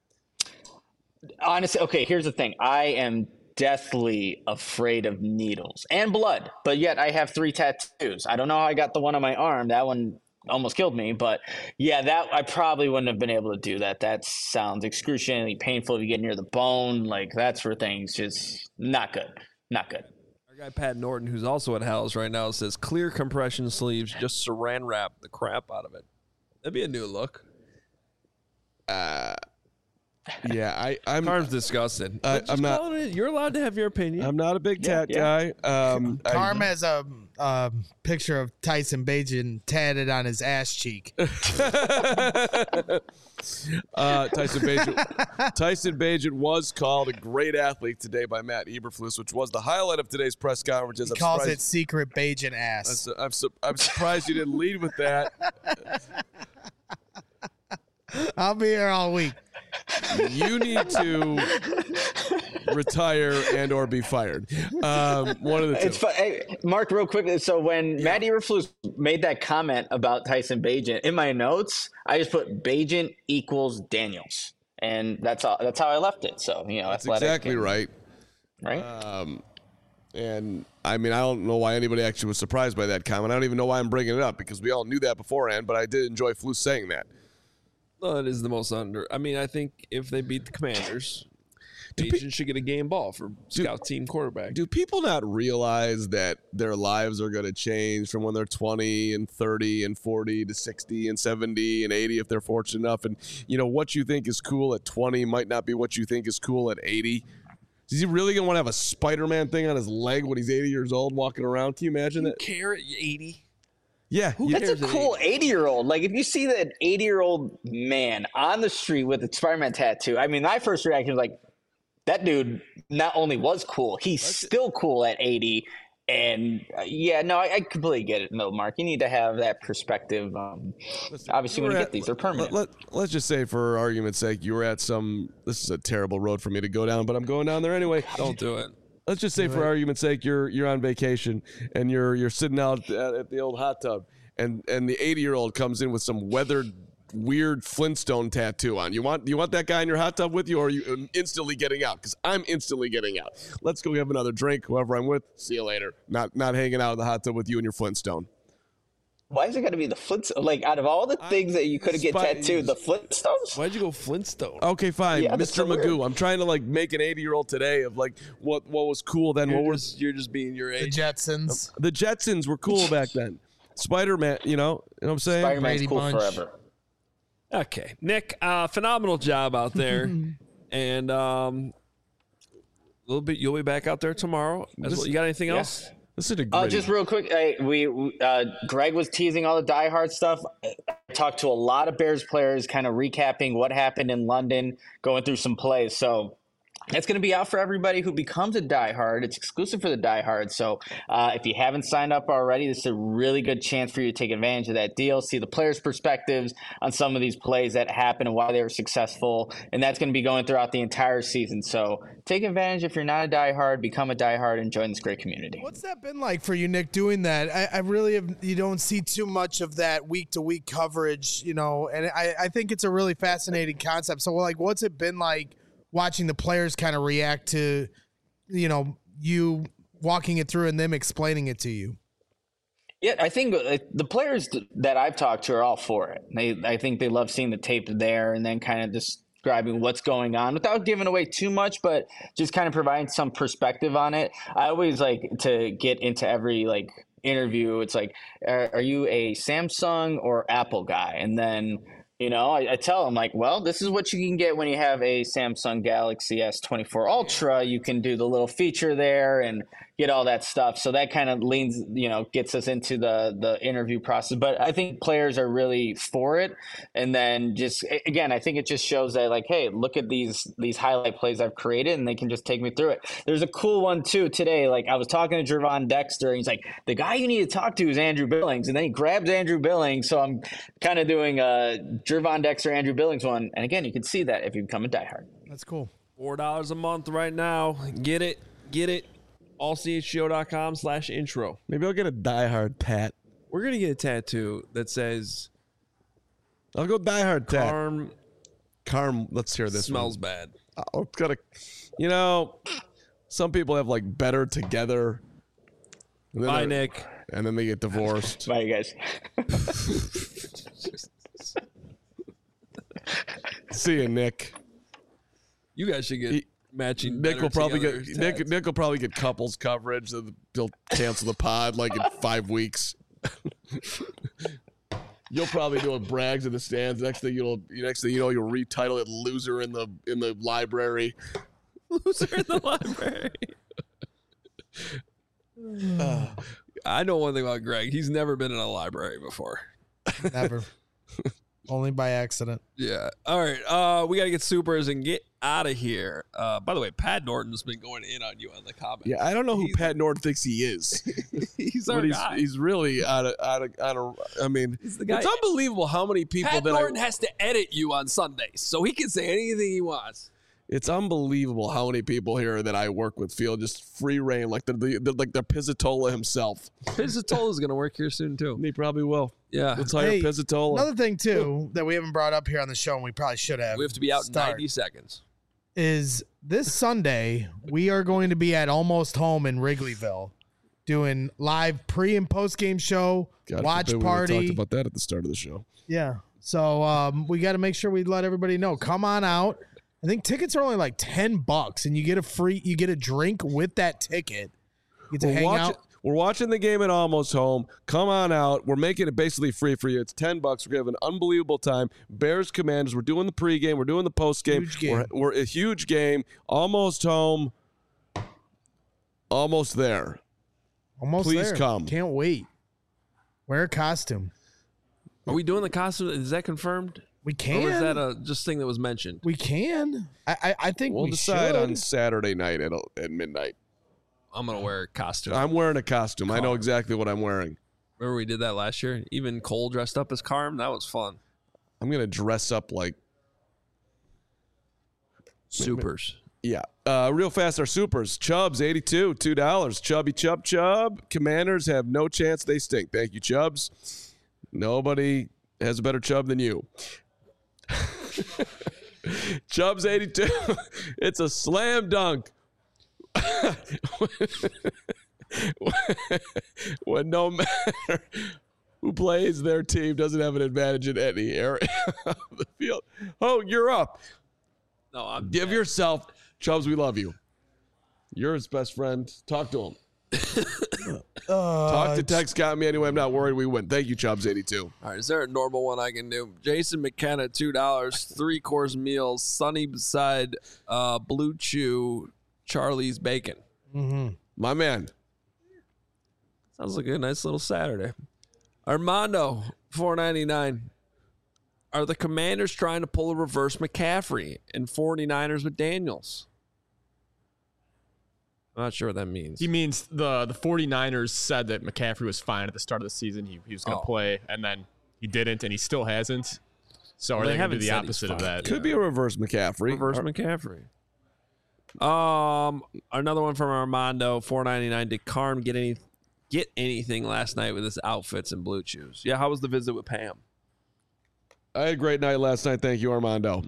Honestly, okay. Here's the thing. I am deathly afraid of needles and blood, but yet I have 3 tattoos. I don't know how I got the one on my arm. That one almost killed me, but yeah, that I probably wouldn't have been able to do that. That sounds excruciatingly painful if you get near the bone. Like, that's where things just not good. Our guy Pat Norton, who's also at Halas right now, says clear compression sleeves, just saran wrap the crap out of it. That'd be a new look. Yeah, I'm. Carm's disgusted. I'm not. You're allowed to have your opinion. I'm not a big tat guy. Carm has a picture of Tyson Bagent tatted on his ass cheek. Tyson Bagent was called a great athlete today by Matt Eberflus, which was the highlight of today's press conference. He calls it secret Bagent ass. I'm surprised you didn't lead with that. I'll be here all week. You need to retire and or be fired. One of the two. It's fun. Hey, Mark, real quick. So when Matt Eberflus made that comment about Tyson Bagent, in my notes, I just put Bagent equals Daniels, and that's all. That's how I left it. So that's exactly right. Right. And I mean, I don't know why anybody actually was surprised by that comment. I don't even know why I'm bringing it up because we all knew that beforehand. But I did enjoy Flus saying that. Well, it is the most under. I mean, I think if they beat the Commanders, Bagent should get a game ball for scout team quarterback. Do people not realize that their lives are going to change from when they're 20 and 30 and 40 to 60 and 70 and 80 if they're fortunate enough? And, what you think is cool at 20 might not be what you think is cool at 80. Is he really going to want to have a Spider-Man thing on his leg when he's 80 years old walking around? Can you imagine that? Care at 80? Yeah. That's a cool 80-year-old. Like, if you see that 80-year-old man on the street with a Spider-Man tattoo, I mean, my first reaction was like, that dude not only was cool, he's still cool at 80. And, I completely get it. No, Mark, you need to have that perspective. Obviously, when you get these, they're permanent. Let's just say, for argument's sake, you were at this is a terrible road for me to go down, but I'm going down there anyway. Don't do it. Let's just say, for argument's sake, you're on vacation and you're sitting out at the old hot tub, and the 80-year-old comes in with some weathered, weird Flintstone tattoo on. You want that guy in your hot tub with you, or are you instantly getting out? Because I'm instantly getting out. Let's go have another drink. Whoever I'm with, see you later. Not hanging out in the hot tub with you and your Flintstone. Why is it got to be the Flintstones? Like, out of all the things that you could have get tattooed, the Flintstones? Why'd you go Flintstone? Okay, fine. Yeah, Mr. Magoo. I'm trying to, make an 80-year-old today of, what was cool then. You're just being your age. The Jetsons. The Jetsons were cool back then. Spider-Man, you know what I'm saying? Spider-Man's cool forever. Okay. Nick, phenomenal job out there. And you'll be back out there tomorrow. You got anything else? This is a great just real quick, Greg was teasing all the Die Hard stuff. I talked to a lot of Bears players, kind of recapping what happened in London, going through some plays. So it's going to be out for everybody who becomes a diehard. It's exclusive for the diehard. So if you haven't signed up already, this is a really good chance for you to take advantage of that deal, see the players' perspectives on some of these plays that happened and why they were successful. And that's going to be going throughout the entire season. So take advantage. If you're not a diehard, become a diehard and join this great community. What's that been like for you, Nick, doing that? I really you don't see too much of that week-to-week coverage, and I think it's a really fascinating concept. So, like, what's it been like watching the players kind of react to, you walking it through and them explaining it to you? Yeah, I think the players that I've talked to are all for it. I think they love seeing the tape there and then kind of describing what's going on without giving away too much, but just kind of providing some perspective on it. I always like to get into every interview. It's like, are you a Samsung or Apple guy? And then I tell them well, this is what you can get when you have a Samsung Galaxy S24 Ultra. You can do the little feature there and get all that stuff. So that kind of gets us into the interview process. But I think players are really for it. And then I think it just shows that hey, look at these highlight plays I've created and they can just take me through it. There's a cool one too today. I was talking to Gervon Dexter and he's like, the guy you need to talk to is Andrew Billings. And then he grabs Andrew Billings. So I'm kind of doing a Gervon Dexter, Andrew Billings one. And again, you can see that if you become a diehard. That's cool. $4 a month right now. Get it. allchgo.com/intro. Maybe I'll get a diehard tat. We're going to get a tattoo that says I'll go diehard tat. Carm Let's hear this. smells bad. Oh, it's gotta, some people have better together. Bye, Nick. And then they get divorced. Bye, you guys. See you, Nick. You guys should get matching. Nick will probably together get tats. Nick will probably get couples coverage. They'll cancel the pod in 5 weeks. You'll probably do a brags in the stands. Next thing you know, you'll retitle it "Loser in the Library." Loser in the library. I know one thing about Greg. He's never been in a library before. Never. Only by accident. Yeah. All right. We got to get supers and get out of here. By the way, Pat Norton's been going in on you on the comments. Yeah, I don't know who Pat Norton thinks he is. He's our guy. He's really out of. I mean, He's the guy. it's unbelievable how many people Pat Norton has to edit you on Sundays, so he can say anything he wants. It's unbelievable how many people here that I work with feel just free reign, like the Pizzatola himself. Pizzatola's going to work here soon, too. He probably will. Yeah. Let's hire Pizzatola. Another thing, too, that we haven't brought up here on the show, and we probably should have. We have to be out in 90 seconds. Is this Sunday, we are going to be at Almost Home in Wrigleyville doing live pre- and post-game show, watch party. We talked about that at the start of the show. Yeah. So we got to make sure we let everybody know. Come on out. I think tickets are only $10, and you get a drink with that ticket. You get to hang out. We're watching the game at Almost Home. Come on out. We're making it basically free for you. It's $10. We're going to have an unbelievable time. Bears Commanders. We're doing the pregame. We're doing the postgame. Huge game. We're a huge game. Almost home. Almost there. Almost Please there. come. Can't wait. Wear a costume. Are we doing the costume? Is that confirmed? We can. Or was that a just thing that was mentioned? We can. I think We'll we decide should. on Saturday night at midnight. I'm going to wear a costume. I'm wearing a costume. I know exactly what I'm wearing. Remember we did that last year? Even Cole dressed up as Carm? That was fun. I'm going to dress up like Supers. Yeah. Real fast, our supers. Chubbs, 82, $2. Chubby Chubb. Commanders have no chance. They stink. Thank you, Chubbs. Nobody has a better Chubb than you. Chubbs, 82. It's a slam dunk. When no matter who plays, their team doesn't have an advantage in any area of the field. Oh, you're up. No, Give yourself, Chubbs, we love you. You're his best friend. Talk to him. Talk to Tex got me anyway. I'm not worried we win. Thank you, Chubbs, 82. All right, is there a normal one I can do? Jason McKenna, $2, 3-course meals, sunny beside Blue Chew, Charlie's Bacon. Mm-hmm. My man. Sounds like a nice little Saturday. Armando, $4.99. Are the Commanders trying to pull a reverse McCaffrey and 49ers with Daniels? I'm not sure what that means. He means the 49ers said that McCaffrey was fine at the start of the season. He was going to play, and then he didn't, and he still hasn't. So are they going to do the opposite of that? Could be a reverse McCaffrey. Reverse McCaffrey. Another one from Armando, $4.99. Did Carm get anything last night with his outfits and Blue Chews? Yeah, how was the visit with Pam? I had a great night last night. Thank you, Armando.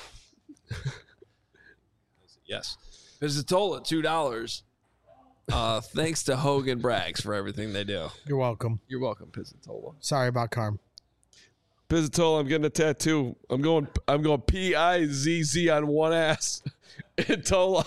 Yes. Pizzatola, $2. Thanks to Hogan Braggs for everything they do. You're welcome. You're welcome, Pizzatola. Sorry about Carm. Pizzatola, I'm getting a tattoo. I'm going P-I-Z-Z on one ass and Tola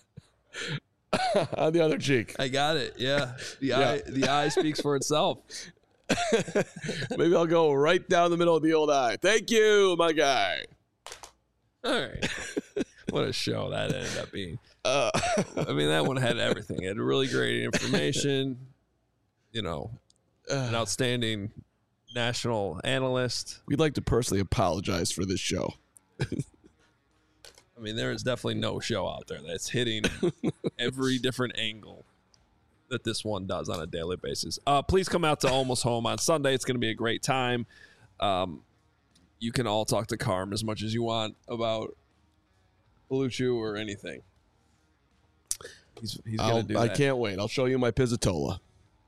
on the other cheek. I got it. Yeah. The eye speaks for itself. Maybe I'll go right down the middle of the old eye. Thank you, my guy. All right. What a show that ended up being. I mean, that one had everything. It had really great information, an outstanding national analyst. We'd like to personally apologize for this show. I mean, there is definitely no show out there that's hitting every different angle that this one does on a daily basis. Please come out to Almost Home on Sunday. It's going to be a great time. You can all talk to Carm as much as you want about Belucci or anything. He's going to do that. I can't wait. I'll show you my Pizzatola.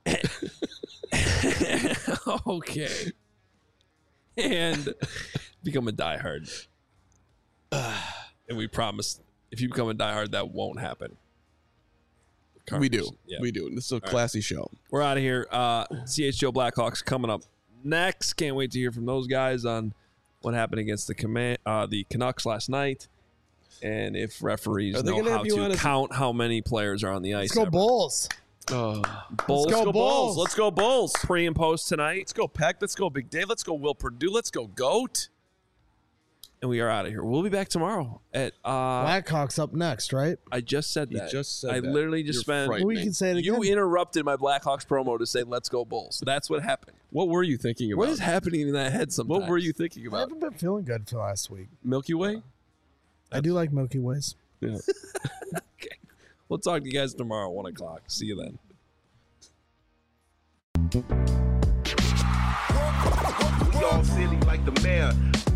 Okay. And become a diehard. And we promise if you become a diehard, that won't happen. We do. Yeah. We do. This is a classy show. We're out of here. CHGO Blackhawks coming up next. Can't wait to hear from those guys on what happened against the Canucks last night. And if referees know how to count how many players are on the ice. Let's go Bulls. Bulls. Let's go Bulls. Let's go Bulls. Pre and post tonight. Let's go Peck. Let's go Big Dave. Let's go Will Purdue. Let's go Goat. And we are out of here. We'll be back tomorrow at Blackhawks up next, right? I just said that. You just said I that. literally just spent. We can say it again. You interrupted my Blackhawks promo to say "Let's go Bulls." That's what happened. What were you thinking about? What is happening in that head sometimes? What were you thinking I about? haven't been feeling good for last week. Milky Way? I do like Milky Ways. Yeah. Okay. We'll talk to you guys tomorrow at 1 o'clock. See you then. We all silly like the mayor.